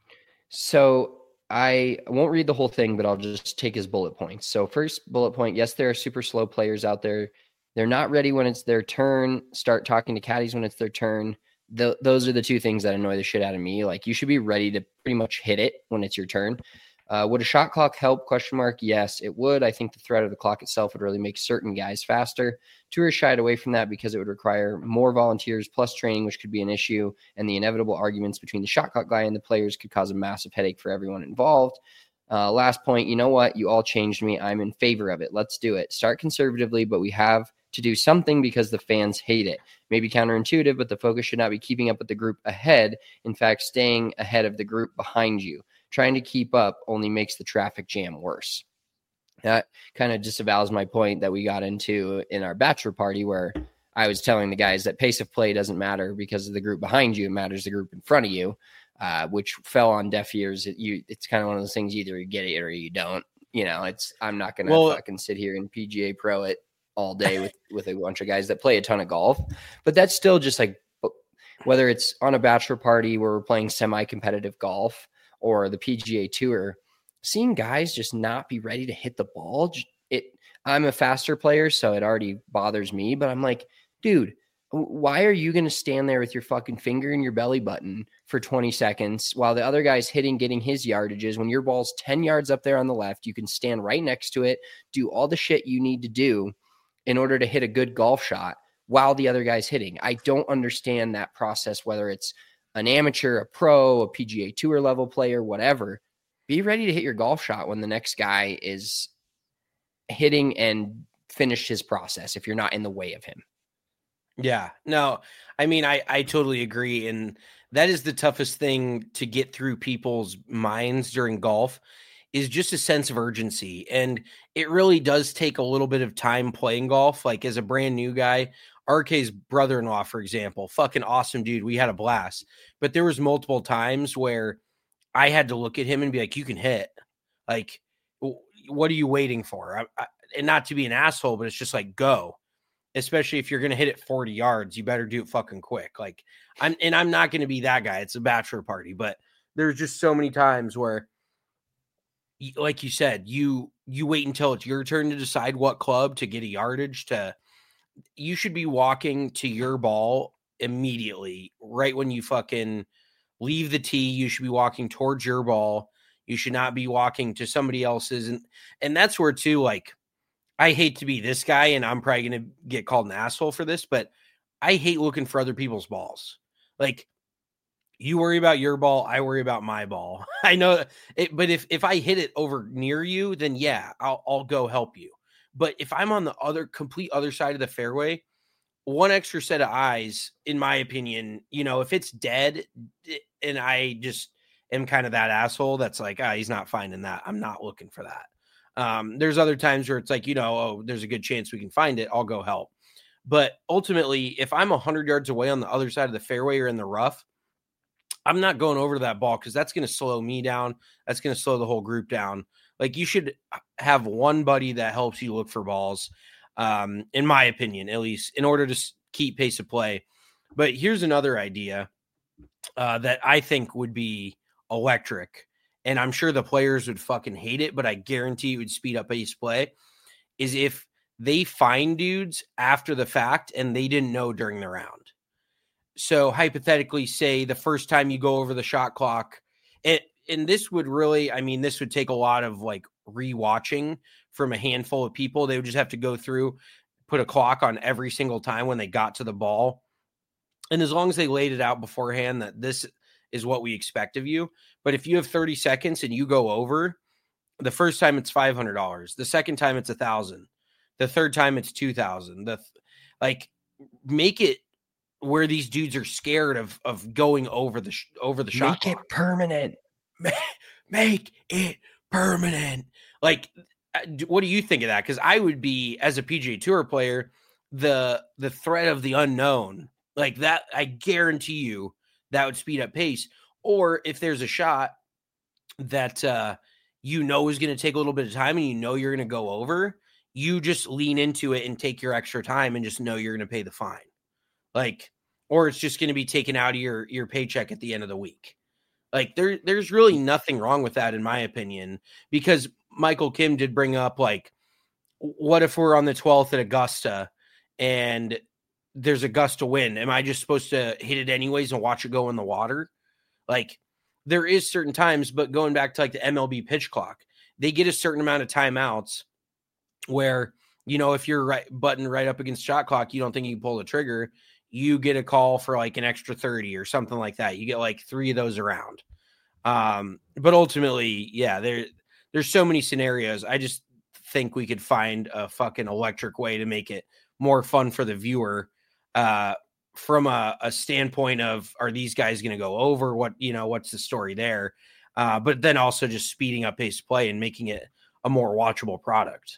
So I won't read the whole thing, but I'll just take his bullet points. So first bullet point, yes, there are super slow players out there. They're not ready when it's their turn. Start talking to caddies when it's their turn. The, those are the two things that annoy the shit out of me. Like, you should be ready to pretty much hit it when it's your turn. Uh, would a shot clock help? Question mark. Yes, it would. I think the threat of the clock itself would really make certain guys faster. Tour shied away from that because it would require more volunteers plus training, which could be an issue. And the inevitable arguments between the shot clock guy and the players could cause a massive headache for everyone involved. Uh, last point. You know what? You all changed me. I'm in favor of it. Let's do it. Start conservatively, but we have to do something because the fans hate it. Maybe counterintuitive, but the focus should not be keeping up with the group ahead. In fact, staying ahead of the group behind you. Trying to keep up only makes the traffic jam worse. That kind of disavows my point that we got into in our bachelor party, where I was telling the guys that pace of play doesn't matter because of the group behind you. It matters the group in front of you, uh, which fell on deaf ears. It, you, it's kind of one of those things, either you get it or you don't. You know, it's I'm not going to well, fucking sit here and P G A Pro it all day with, with a bunch of guys that play a ton of golf. But that's still just like, whether it's on a bachelor party where we're playing semi-competitive golf, or the P G A Tour, seeing guys just not be ready to hit the ball. It, I'm a faster player, so it already bothers me, but I'm like, dude, why are you going to stand there with your fucking finger in your belly button for twenty seconds while the other guy's hitting, getting his yardages? When your ball's ten yards up there on the left, you can stand right next to it, do all the shit you need to do in order to hit a good golf shot while the other guy's hitting. I don't understand that process, whether it's an amateur, a pro, a P G A Tour level player, whatever. Be ready to hit your golf shot when the next guy is hitting and finish his process if you're not in the way of him. Yeah, no, I mean, I, I totally agree. And that is the toughest thing to get through people's minds during golf, is just a sense of urgency. And it really does take a little bit of time playing golf. Like, as a brand new guy, R K's brother-in-law, for example, fucking awesome dude. We had a blast, but there was multiple times where I had to look at him and be like, you can hit. Like, what are you waiting for? I, I, and not to be an asshole, but it's just like, go. Especially if you're going to hit it forty yards, you better do it fucking quick. Like, I'm, and I'm not going to be that guy. It's a bachelor party, but there's just so many times where, like you said, you, you wait until it's your turn to decide what club to get a yardage to. You should be walking to your ball immediately, right when you fucking leave the tee. You should be walking towards your ball. You should not be walking to somebody else's. And, and that's where too, like, I hate to be this guy, and I'm probably going to get called an asshole for this, but I hate looking for other people's balls. Like, you worry about your ball, I worry about my ball. I know it, but if, if I hit it over near you, then yeah, I'll, I'll go help you. But if I'm on the other complete other side of the fairway, one extra set of eyes, in my opinion, you know, if it's dead and I just am kind of that asshole that's like, ah, he's not finding that, I'm not looking for that. Um, there's other times where it's like, you know, oh, there's a good chance we can find it, I'll go help. But ultimately, if I'm one hundred yards away on the other side of the fairway or in the rough, I'm not going over to that ball because that's going to slow me down. That's going to slow the whole group down. Like, you should have one buddy that helps you look for balls, um, in my opinion, at least, in order to keep pace of play. But here's another idea uh, that I think would be electric, and I'm sure the players would fucking hate it, but I guarantee it would speed up pace of play, is if they find dudes after the fact and they didn't know during the round. So hypothetically, say the first time you go over the shot clock, it, and this would really, I mean, this would take a lot of like rewatching from a handful of people. They would just have to go through, put a clock on every single time when they got to the ball. And as long as they laid it out beforehand that this is what we expect of you. But if you have thirty seconds and you go over, the first time it's five hundred dollars. The second time it's a thousand. The third time it's two thousand. The like, make it where these dudes are scared of, of going over the, over the shot. Make it permanent. Make it permanent. Like, what do you think of that? Because I would be, as a P G A Tour player, the the threat of the unknown, like that, I guarantee you that would speed up pace. Or if there's a shot that uh, you know is going to take a little bit of time and you know you're going to go over, you just lean into it and take your extra time and just know you're going to pay the fine. Like, or it's just going to be taken out of your, your paycheck at the end of the week. Like there, there's really nothing wrong with that, in my opinion, because Michael Kim did bring up, like, what if we're on the twelfth at Augusta and there's a gust of wind? Am I just supposed to hit it anyways and watch it go in the water? Like, there is certain times, but going back to like the M L B pitch clock, they get a certain amount of timeouts where, you know, if you're right button right up against shot clock, you don't think you can pull the trigger, you get a call for like an extra thirty or something like that. You get like three of those around. Um, but ultimately, yeah, there, there's so many scenarios. I just think we could find a fucking electric way to make it more fun for the viewer, uh, from a, a standpoint of, are these guys going to go over? What, you know, what's the story there? Uh, but then also just speeding up pace of play and making it a more watchable product.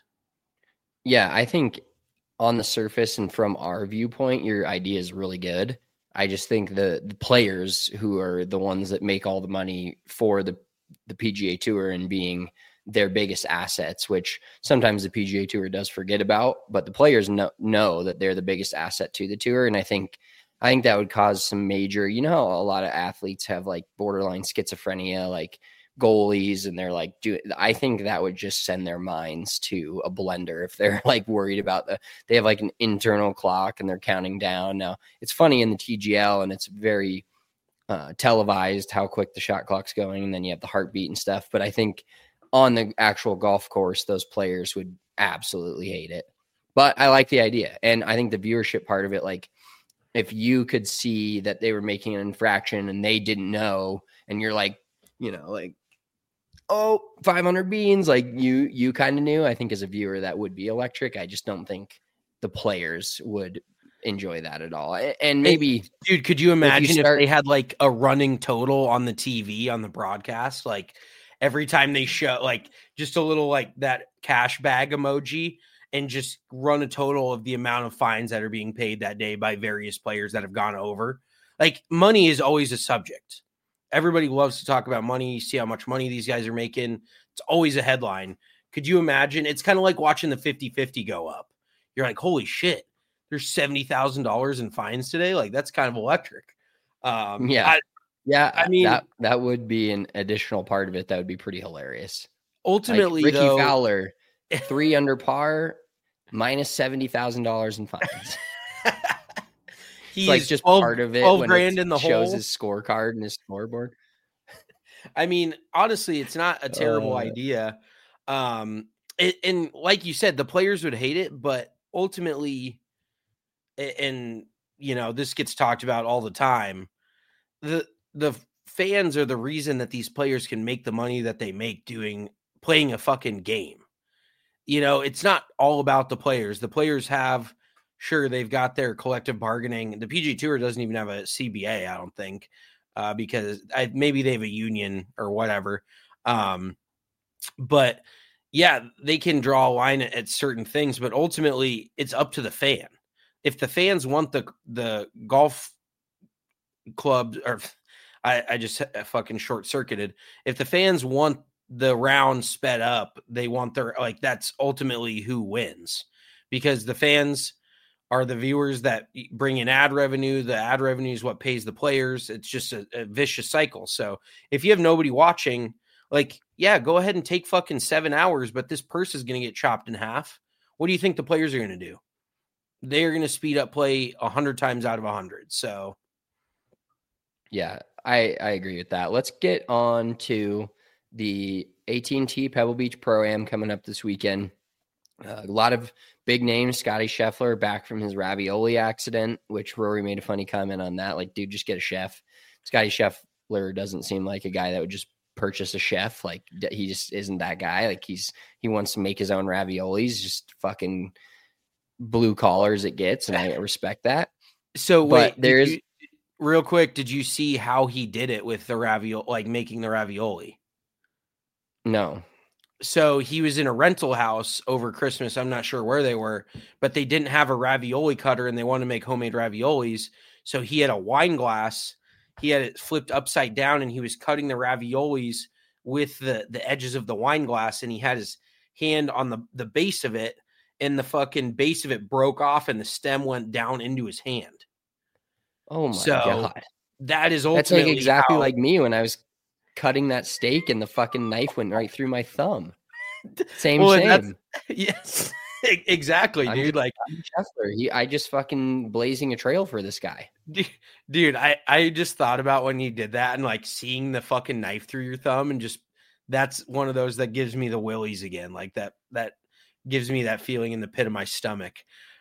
Yeah, I think on the surface and from our viewpoint, your idea is really good. I just think the, the players who are the ones that make all the money for the, the P G A Tour and being their biggest assets, which sometimes the P G A Tour does forget about, but the players know, know that they're the biggest asset to the tour. And I think, I think that would cause some major, you know, how a lot of athletes have like borderline schizophrenia, like goalies, and they're like, do I think that would just send their minds to a blender if they're like worried about the, they have like an internal clock and they're counting down. Now it's funny in the T G L and it's very uh, televised how quick the shot clock's going. And then you have the heartbeat and stuff. But I think on the actual golf course, those players would absolutely hate it. But I like the idea. And I think the viewership part of it, like if you could see that they were making an infraction and they didn't know, and you're like, you know, like, oh, five hundred beans, like you, you kind of knew, I think as a viewer, that would be electric. I just don't think the players would enjoy that at all. And maybe, hey, dude, could you imagine if, you start, if they had like a running total on the T V, on the broadcast, like every time they show like just a little, like that cash bag emoji, and just run a total of the amount of fines that are being paid that day by various players that have gone over. Like money is always a subject. Everybody loves to talk about money. You see how much money these guys are making. It's always a headline. Could you imagine? It's kind of like watching the fifty-fifty go up. You're like, holy shit, there's seventy thousand dollars in fines today. Like that's kind of electric. Um, yeah. I, yeah. I mean, that, that would be an additional part of it. That would be pretty hilarious. Ultimately, like Ricky though, Fowler, three under par, minus seventy thousand dollars in fines. He's like just twelve, part of it when grand it in the shows hole. His scorecard and his scoreboard. I mean, honestly, it's not a terrible uh, idea. Um, it, and like you said, the players would hate it, but ultimately, and you know, this gets talked about all the time. The the fans are the reason that these players can make the money that they make doing playing a fucking game. You know, it's not all about the players. The players have, sure, they've got their collective bargaining. The P G A Tour doesn't even have a C B A, I don't think, uh, because I, maybe they have a union or whatever. Um, but yeah, they can draw a line at, at certain things, but ultimately it's up to the fan. If the fans want the the golf club, or I, I just fucking short circuited. If the fans want the round sped up, they want their, like, that's ultimately who wins, because the fans are the viewers that bring in ad revenue. The ad revenue is what pays the players. It's just a, a vicious cycle. So if you have nobody watching, like, yeah, go ahead and take fucking seven hours, but this purse is going to get chopped in half. What do you think the players are going to do? They're going to speed up play a hundred times out of a hundred. So yeah, I, I agree with that. Let's get on to the A T and T Pebble Beach Pro-Am coming up this weekend. Uh, a lot of big names. Scotty Scheffler back from his ravioli accident, which Rory made a funny comment on that. Like, dude, just get a chef. Scotty Scheffler doesn't seem like a guy that would just purchase a chef. Like, he just isn't that guy. Like, he's he wants to make his own raviolis, just fucking blue collar as it gets, and I respect that. So but wait, there's you, real quick, did you see how he did it with the ravioli, like making the ravioli? No. So he was in a rental house over Christmas. I'm not sure where they were, but they didn't have a ravioli cutter and they wanted to make homemade raviolis. So he had a wine glass. He had it flipped upside down and he was cutting the raviolis with the, the edges of the wine glass. And he had his hand on the, the base of it, and the fucking base of it broke off and the stem went down into his hand. Oh my so God. That is ultimately That's like exactly how, like me when I was cutting that steak and the fucking knife went right through my thumb. Same, well, same. Yes, exactly, I'm dude. just, like Scheffler. He, I just fucking blazing a trail for this guy. Dude, I, I just thought about when you did that and like seeing the fucking knife through your thumb, and just that's one of those that gives me the willies again. Like that, that gives me that feeling in the pit of my stomach.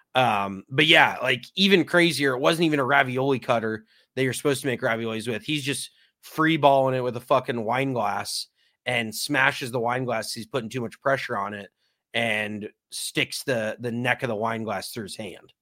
Um, but yeah, like even crazier, it wasn't even a ravioli cutter that you're supposed to make raviolis with. He's just free balling it with a fucking wine glass and smashes the wine glass. He's putting too much pressure on it and sticks the, the neck of the wine glass through his hand.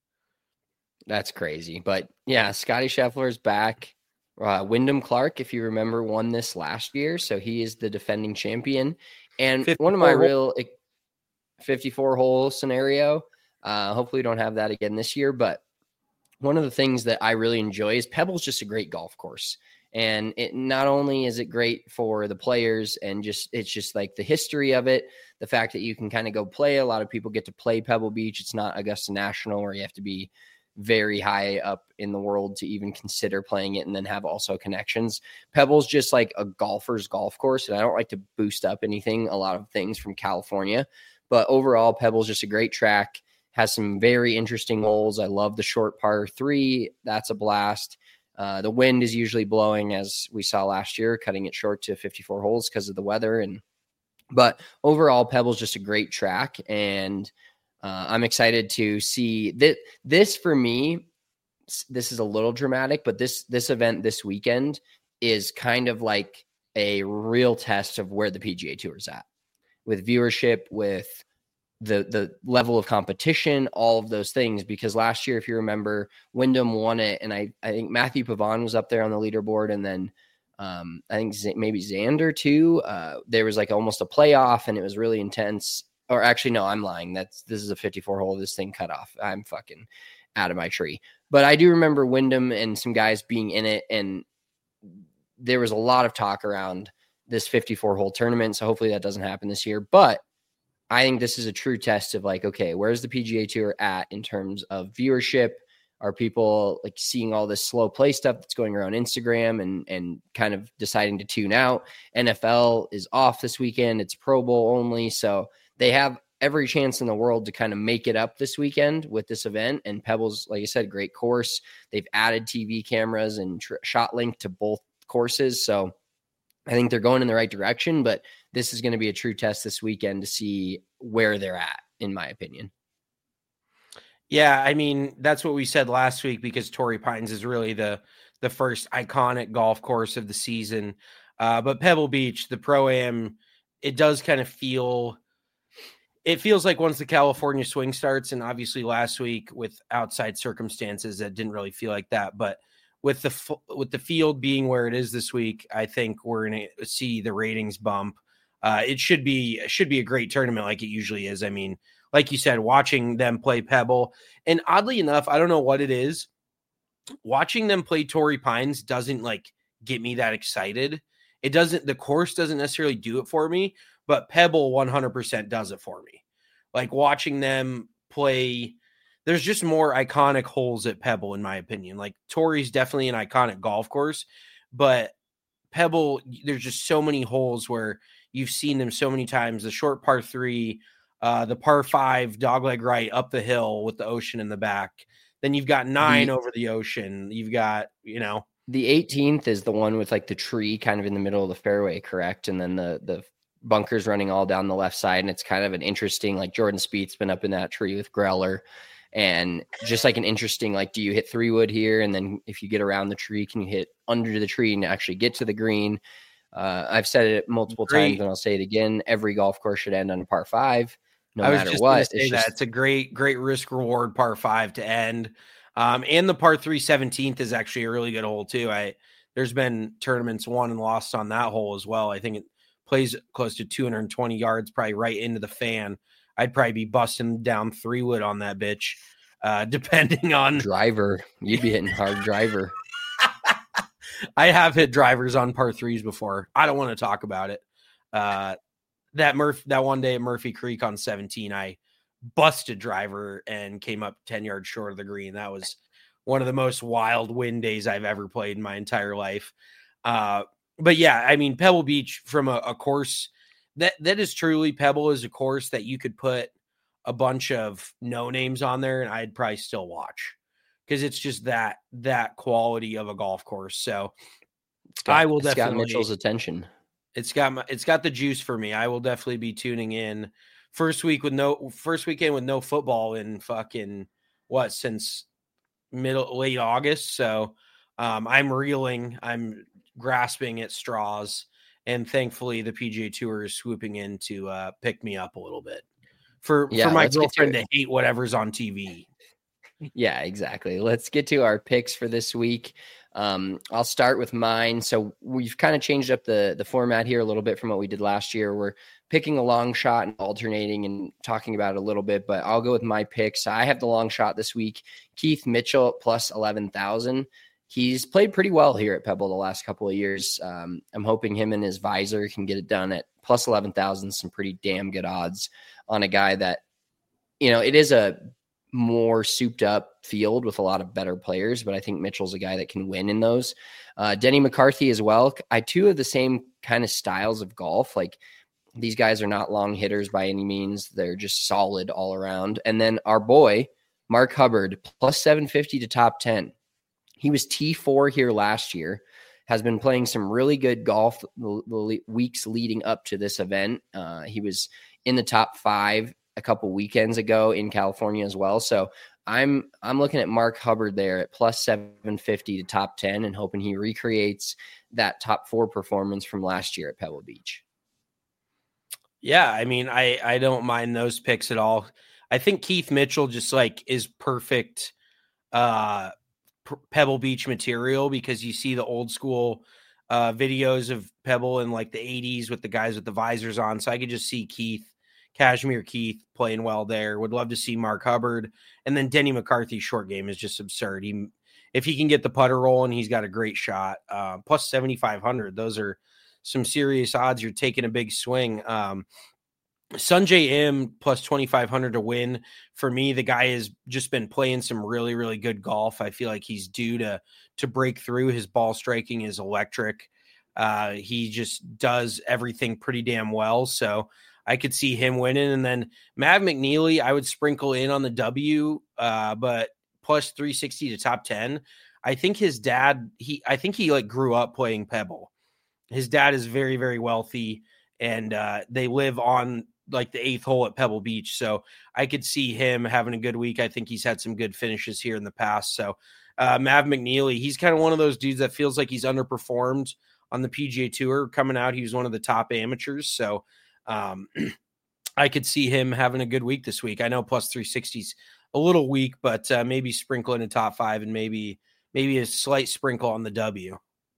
That's crazy. But yeah, Scotty Scheffler is back. Uh, Wyndham Clark, if you remember, won this last year. So he is the defending champion. And one of my real fifty-four hole scenario, uh, hopefully we don't have that again this year. But one of the things that I really enjoy is Pebble's just a great golf course. And it not only is it great for the players and just, it's just like the history of it, the fact that you can kind of go play. A lot of people get to play Pebble Beach. It's not Augusta National where you have to be very high up in the world to even consider playing it and then have also connections. Pebble's just like a golfer's golf course. And I don't like to boost up anything, a lot of things from California, but overall Pebble's just a great track, has some very interesting holes. I love the short par three. That's a blast. Uh, the wind is usually blowing, as we saw last year, cutting it short to fifty-four holes because of the weather. And, but overall Pebble's just a great track. And Uh, I'm excited to see that this for me, this is a little dramatic, but this, this event this weekend is kind of like a real test of where the P G A Tour is at with viewership, with the, the level of competition, all of those things. Because last year, if you remember, Wyndham won it. And I, I think Matthew Pavon was up there on the leaderboard. And then um, I think Z- maybe Xander too. Uh, there was like almost a playoff and it was really intense. Or actually, no, I'm lying. That's this is a fifty-four hole. This thing cut off. I'm fucking out of my tree. But I do remember Wyndham and some guys being in it, and there was a lot of talk around this fifty-four hole tournament. So hopefully that doesn't happen this year. But I think this is a true test of like, okay, where's the P G A Tour at in terms of viewership? Are people like seeing all this slow play stuff that's going around Instagram and and kind of deciding to tune out? N F L is off this weekend. It's Pro Bowl only. So they have every chance in the world to kind of make it up this weekend with this event. And Pebble's, like I said, great course. They've added T V cameras and tr- shot link to both courses. So I think they're going in the right direction, but this is going to be a true test this weekend to see where they're at, in my opinion. Yeah, I mean, that's what we said last week, because Torrey Pines is really the the first iconic golf course of the season. Uh, but Pebble Beach, the Pro-Am, it does kind of feel... It feels like once the California swing starts, and obviously last week with outside circumstances, that didn't really feel like that. But with the with the field being where it is this week, I think we're going to see the ratings bump. Uh, it should be should be a great tournament, like it usually is. I mean, like you said, watching them play Pebble, and oddly enough, I don't know what it is, watching them play Torrey Pines doesn't like get me that excited. It doesn't. The course doesn't necessarily do it for me. But Pebble one hundred percent does it for me. Like watching them play, there's just more iconic holes at Pebble, in my opinion. Like Torrey's definitely an iconic golf course, but Pebble, there's just so many holes where you've seen them so many times. The short par three, uh, the par five, dogleg right up the hill with the ocean in the back. Then you've got nine the, over the ocean. You've got, you know. The eighteenth is the one with like the tree kind of in the middle of the fairway, correct? And then the the bunkers running all down the left side, and it's kind of an interesting, like Jordan Spieth's been up in that tree with Greller, and just like an interesting, like, do you hit three wood here, and then if you get around the tree, can you hit under the tree and actually get to the green? Uh, I've said it multiple great. times, and I'll say it again. Every golf course should end on a par five, no I was matter just what. Say it's, that. Just... it's a great, great risk reward par five to end. Um, and the par three seventeenth is actually a really good hole too. I there's been tournaments won and lost on that hole as well. I think it plays close to two hundred twenty yards, probably right into the fan. I'd probably be busting down three wood on that bitch, uh, depending on driver. You'd be hitting hard driver. I have hit drivers on par threes before. I don't want to talk about it. Uh, that Murph, that one day at Murphy Creek on seventeen, I busted driver and came up ten yards short of the green. That was one of the most wild wind days I've ever played in my entire life. Uh, but yeah, I mean, Pebble Beach from a, a course that, that is truly Pebble is a course that you could put a bunch of no names on there and I'd probably still watch because it's just that, that quality of a golf course. So it's got, I will it's definitely got Mitchell's attention. It's got my, it's got the juice for me. I will definitely be tuning in first week with no first weekend with no football in fucking what since middle late August. So um, I'm reeling, I'm grasping at straws, and thankfully the P G A Tour is swooping in to uh, pick me up a little bit for yeah, for my girlfriend to, to hate whatever's on T V. Yeah, exactly. Let's get to our picks for this week. Um, I'll start with mine. So we've kind of changed up the the format here a little bit from what we did last year. We're picking a long shot and alternating and talking about it a little bit, but I'll go with my picks. I have the long shot this week. Keith Mitchell plus eleven thousand. He's played pretty well here at Pebble the last couple of years. Um, I'm hoping him and his visor can get it done at plus eleven thousand, some pretty damn good odds on a guy that, you know, it is a more souped up field with a lot of better players, but I think Mitchell's a guy that can win in those. Uh, Denny McCarthy as well. I two of the same kind of styles of golf. Like these guys are not long hitters by any means. They're just solid all around. And then our boy, Mark Hubbard, plus seven fifty to top ten. He was T four here last year, has been playing some really good golf the, the weeks leading up to this event. Uh, he was in the top five a couple weekends ago in California as well. So I'm I'm looking at Mark Hubbard there at plus seven fifty to top ten and hoping he recreates that top four performance from last year at Pebble Beach. Yeah, I mean, I, I don't mind those picks at all. I think Keith Mitchell just like is perfect uh, P- Pebble Beach material because you see the old school uh, videos of Pebble in like the eighties with the guys with the visors on. So I could just see Keith, Cashmere Keith playing well there. Would love to see Mark Hubbard. And then Denny McCarthy's short game is just absurd. He, if he can get the putter rolling, he's got a great shot. Uh, plus seventy-five hundred. Those are some serious odds. You're taking a big swing. Um, Sungjae Im plus twenty-five hundred to win. For me, the guy has just been playing some really, really good golf. I feel like he's due to, to break through. His ball striking is electric. Uh, he just does everything pretty damn well. So I could see him winning. And then Mav McNeely, I would sprinkle in on the W, uh, but plus three sixty to top ten. I think his dad, he, I think he like grew up playing Pebble. His dad is very, very wealthy, and uh, they live on like the eighth hole at Pebble Beach. So I could see him having a good week. I think he's had some good finishes here in the past. So uh, Mav McNeely, he's kind of one of those dudes that feels like he's underperformed on the P G A Tour coming out. He was one of the top amateurs. So um, I could see him having a good week this week. I know plus three sixty's a little weak, but uh, maybe sprinkle in a top five and maybe, maybe a slight sprinkle on the W.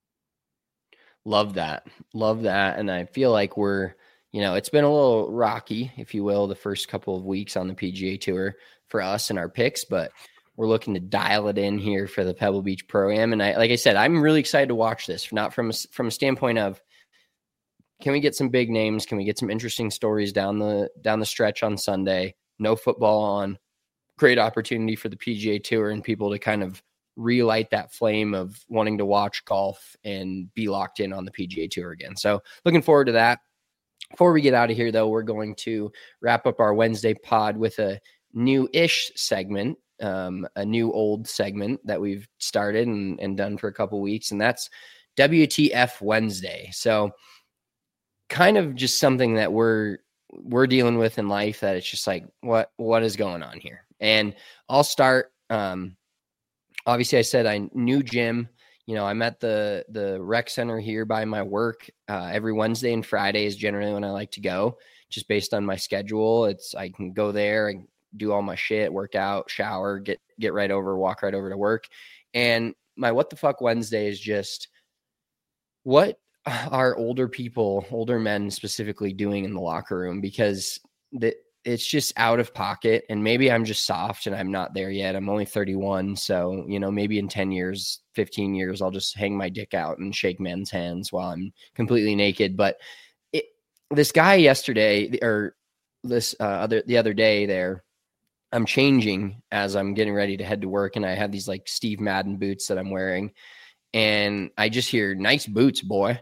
Love that. Love that. And I feel like we're, you know, it's been a little rocky, if you will, the first couple of weeks on the P G A Tour for us and our picks, but we're looking to dial it in here for the Pebble Beach Pro-Am. And I, like I said, I'm really excited to watch this, not from a, from a standpoint of, can we get some big names? Can we get some interesting stories down the, down the stretch on Sunday? No football on. Great opportunity for the P G A Tour and people to kind of relight that flame of wanting to watch golf and be locked in on the P G A Tour again. So looking forward to that. Before we get out of here, though, we're going to wrap up our Wednesday pod with a new-ish segment, um, a new old segment that we've started and, and done for a couple weeks, and that's W T F Wednesday. So kind of just something that we're we're dealing with in life that it's just like, what what is going on here? And I'll start. Um, obviously, I said I knew Jim. You know, I'm at the the rec center here by my work. Uh, every Wednesday and Friday is generally when I like to go, just based on my schedule. It's I can go there and do all my shit, work out, shower, get get right over, walk right over to work. And my what the fuck Wednesday is just what are older people, older men specifically doing in the locker room, because the, it's just out of pocket. And maybe I'm just soft and I'm not there yet. I'm only thirty-one. So, you know, maybe in ten years, fifteen years, I'll just hang my dick out and shake men's hands while I'm completely naked. But it, this guy yesterday or this uh, other, the other day there, I'm changing as I'm getting ready to head to work. And I have these like Steve Madden boots that I'm wearing. And I just hear, nice boots, boy.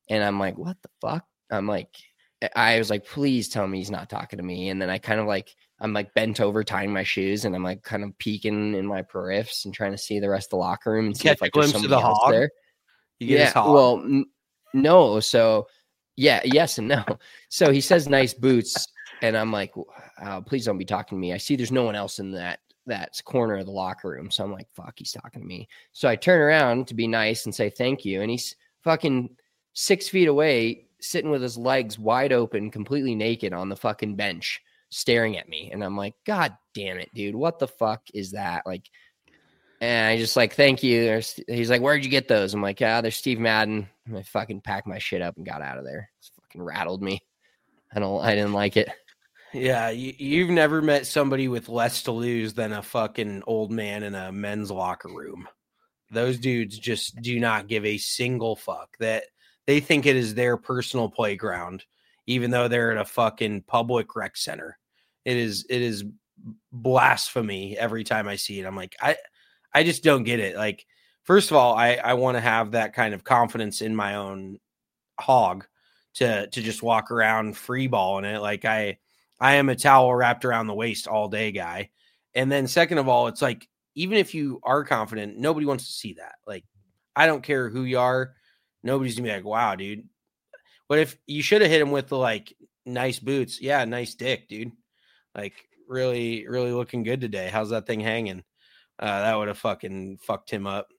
And I'm like, what the fuck? I'm like, I was like, please tell me he's not talking to me. And then I kind of like, I'm like bent over tying my shoes and I'm like kind of peeking in my periffs and trying to see the rest of the locker room and see if like there's somebody else hog? there. You get yeah, his hog? Well, n- no. So yeah, yes and no. So he says nice boots. And I'm like, oh, please don't be talking to me. I see there's no one else in that that corner of the locker room. So I'm like, fuck, he's talking to me. So I turn around to be nice and say thank you. And he's fucking six feet away, sitting with his legs wide open, completely naked on the fucking bench, staring at me. And I'm like, God damn it, dude. What the fuck is that? Like, and I just like, thank you. There's, he's like, where'd you get those? I'm like, yeah, there's Steve Madden. And I fucking packed my shit up and got out of there. It's fucking rattled me. I don't, I didn't like it. Yeah. You, you've never met somebody with less to lose than a fucking old man in a men's locker room. Those dudes just do not give a single fuck. That they think it is their personal playground, even though they're at a fucking public rec center. It is, it is blasphemy every time I see it. I'm like, I, I just don't get it. Like, first of all, I, I want to have that kind of confidence in my own hog to, to just walk around free balling it. Like I, I am a towel wrapped around the waist all day guy. And then second of all, it's like, even if you are confident, nobody wants to see that. Like, I don't care who you are. Nobody's gonna be like, wow, dude. But if you should have hit him with the like nice boots, yeah, nice dick, dude. Like really, really looking good today. How's that thing hanging? Uh, that would have fucking fucked him up.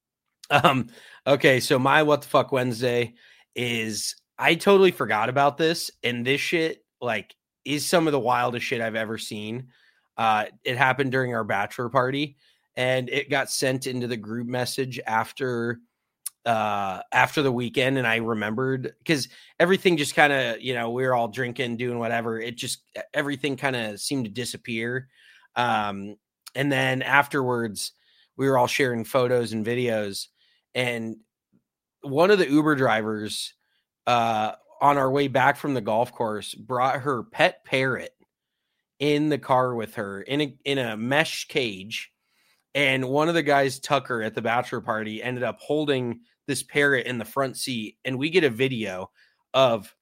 Um, okay, so my what the fuck Wednesday is I totally forgot about this, and this shit like is some of the wildest shit I've ever seen. Uh, it happened during our bachelor party, and it got sent into the group message after uh after the weekend, and I remembered because everything just kind of, you know, we were all drinking, doing whatever, it just everything kind of seemed to disappear. Um and then afterwards we were all sharing photos and videos, and one of the Uber drivers uh on our way back from the golf course brought her pet parrot in the car with her in a in a mesh cage. And one of the guys, Tucker, at the bachelor party ended up holding this parrot in the front seat. And we get a video of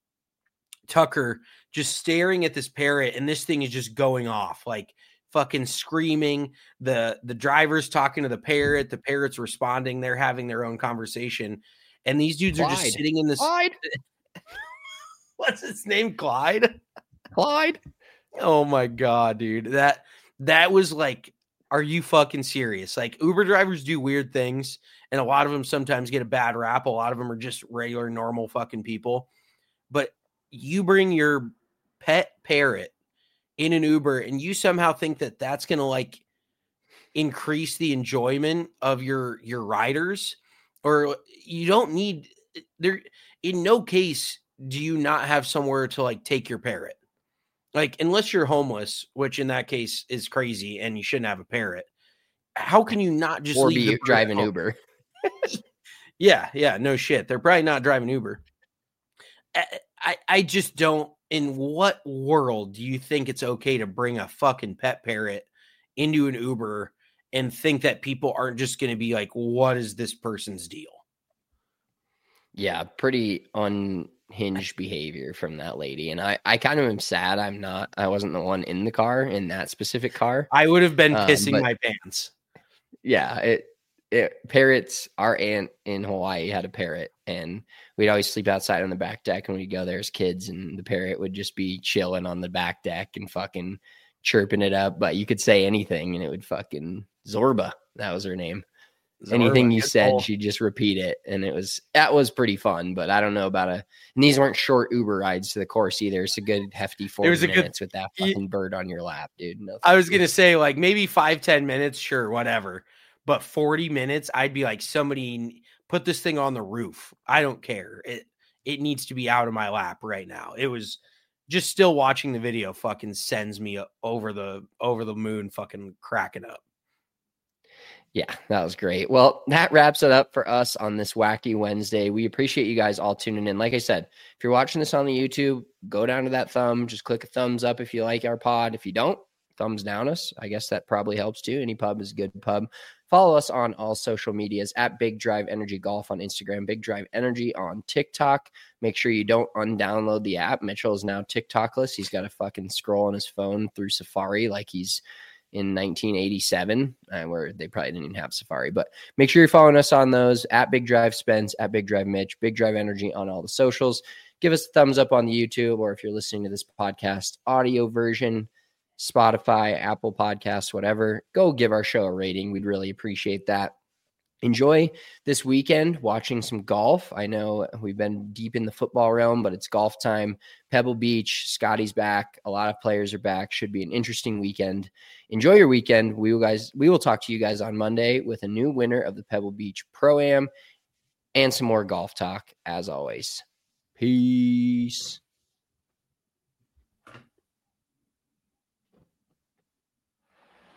Tucker just staring at this parrot. And this thing is just going off, like fucking screaming. The, the driver's talking to the parrot. The parrot's responding. They're having their own conversation. And these dudes Clyde. are just sitting in this. Clyde. What's his name? Clyde? Clyde. Oh my God, dude. That, that was like, are you fucking serious? Like, Uber drivers do weird things, and a lot of them sometimes get a bad rap. A lot of them are just regular, normal fucking people. But you bring your pet parrot in an Uber, and you somehow think that that's going to like increase the enjoyment of your your riders, or you don't need there. In no case do you not have somewhere to like take your parrot. Like, unless you're homeless, which in that case is crazy and you shouldn't have a parrot. How can you not just or leave be driving home? Uber? yeah, yeah, no shit. They're probably not driving Uber. I, I, I just don't. In what world do you think it's okay to bring a fucking pet parrot into an Uber and think that people aren't just going to be like, what is this person's deal? Yeah, pretty unhinged behavior from that lady. And I, I kind of am sad I'm not, I wasn't the one in the car, in that specific car. I would have been pissing um, but, my pants. Yeah, it, it parrots, our aunt in Hawaii had a parrot, and we'd always sleep outside on the back deck, and we'd go there as kids, and the parrot would just be chilling on the back deck and fucking chirping it up. But you could say anything, and it would fucking Zorba. That was her name. Zorba, anything you said, cool. She'd just repeat it, and it was that was pretty fun. But I don't know about a. And these weren't short Uber rides to the course either. It's a good hefty forty it was a minutes good, with that fucking you, bird on your lap, dude. No, I was gonna say like maybe five ten minutes, sure, whatever. But forty minutes, I'd be like, somebody put this thing on the roof. I don't care. It it needs to be out of my lap right now. It was just still watching the video fucking sends me over the over the moon, fucking cracking up. Yeah, that was great. Well, that wraps it up for us on this wacky Wednesday. We appreciate you guys all tuning in. Like I said, if you're watching this on the YouTube, go down to that thumb. Just click a thumbs up if you like our pod. If you don't, thumbs down us. I guess that probably helps too. Any pub is a good pub. Follow us on all social medias at Big Drive Energy Golf on Instagram, Big Drive Energy on TikTok. Make sure you don't undownload the app. Mitchell is now TikTokless. He's got to fucking scroll on his phone through Safari like he's in nineteen eighty-seven, uh, where they probably didn't even have Safari. But make sure you're following us on those at Big Drive Spence, at Big Drive Mitch, Big Drive Energy on all the socials. Give us a thumbs up on the YouTube, or if you're listening to this podcast audio version, Spotify, Apple Podcasts, whatever, go give our show a rating. We'd really appreciate that. Enjoy this weekend watching some golf. I know we've been deep in the football realm, but it's golf time. Pebble Beach, Scotty's back. A lot of players are back. Should be an interesting weekend. Enjoy your weekend. We will guys, we will talk to you guys on Monday with a new winner of the Pebble Beach Pro-Am and some more golf talk as always. Peace.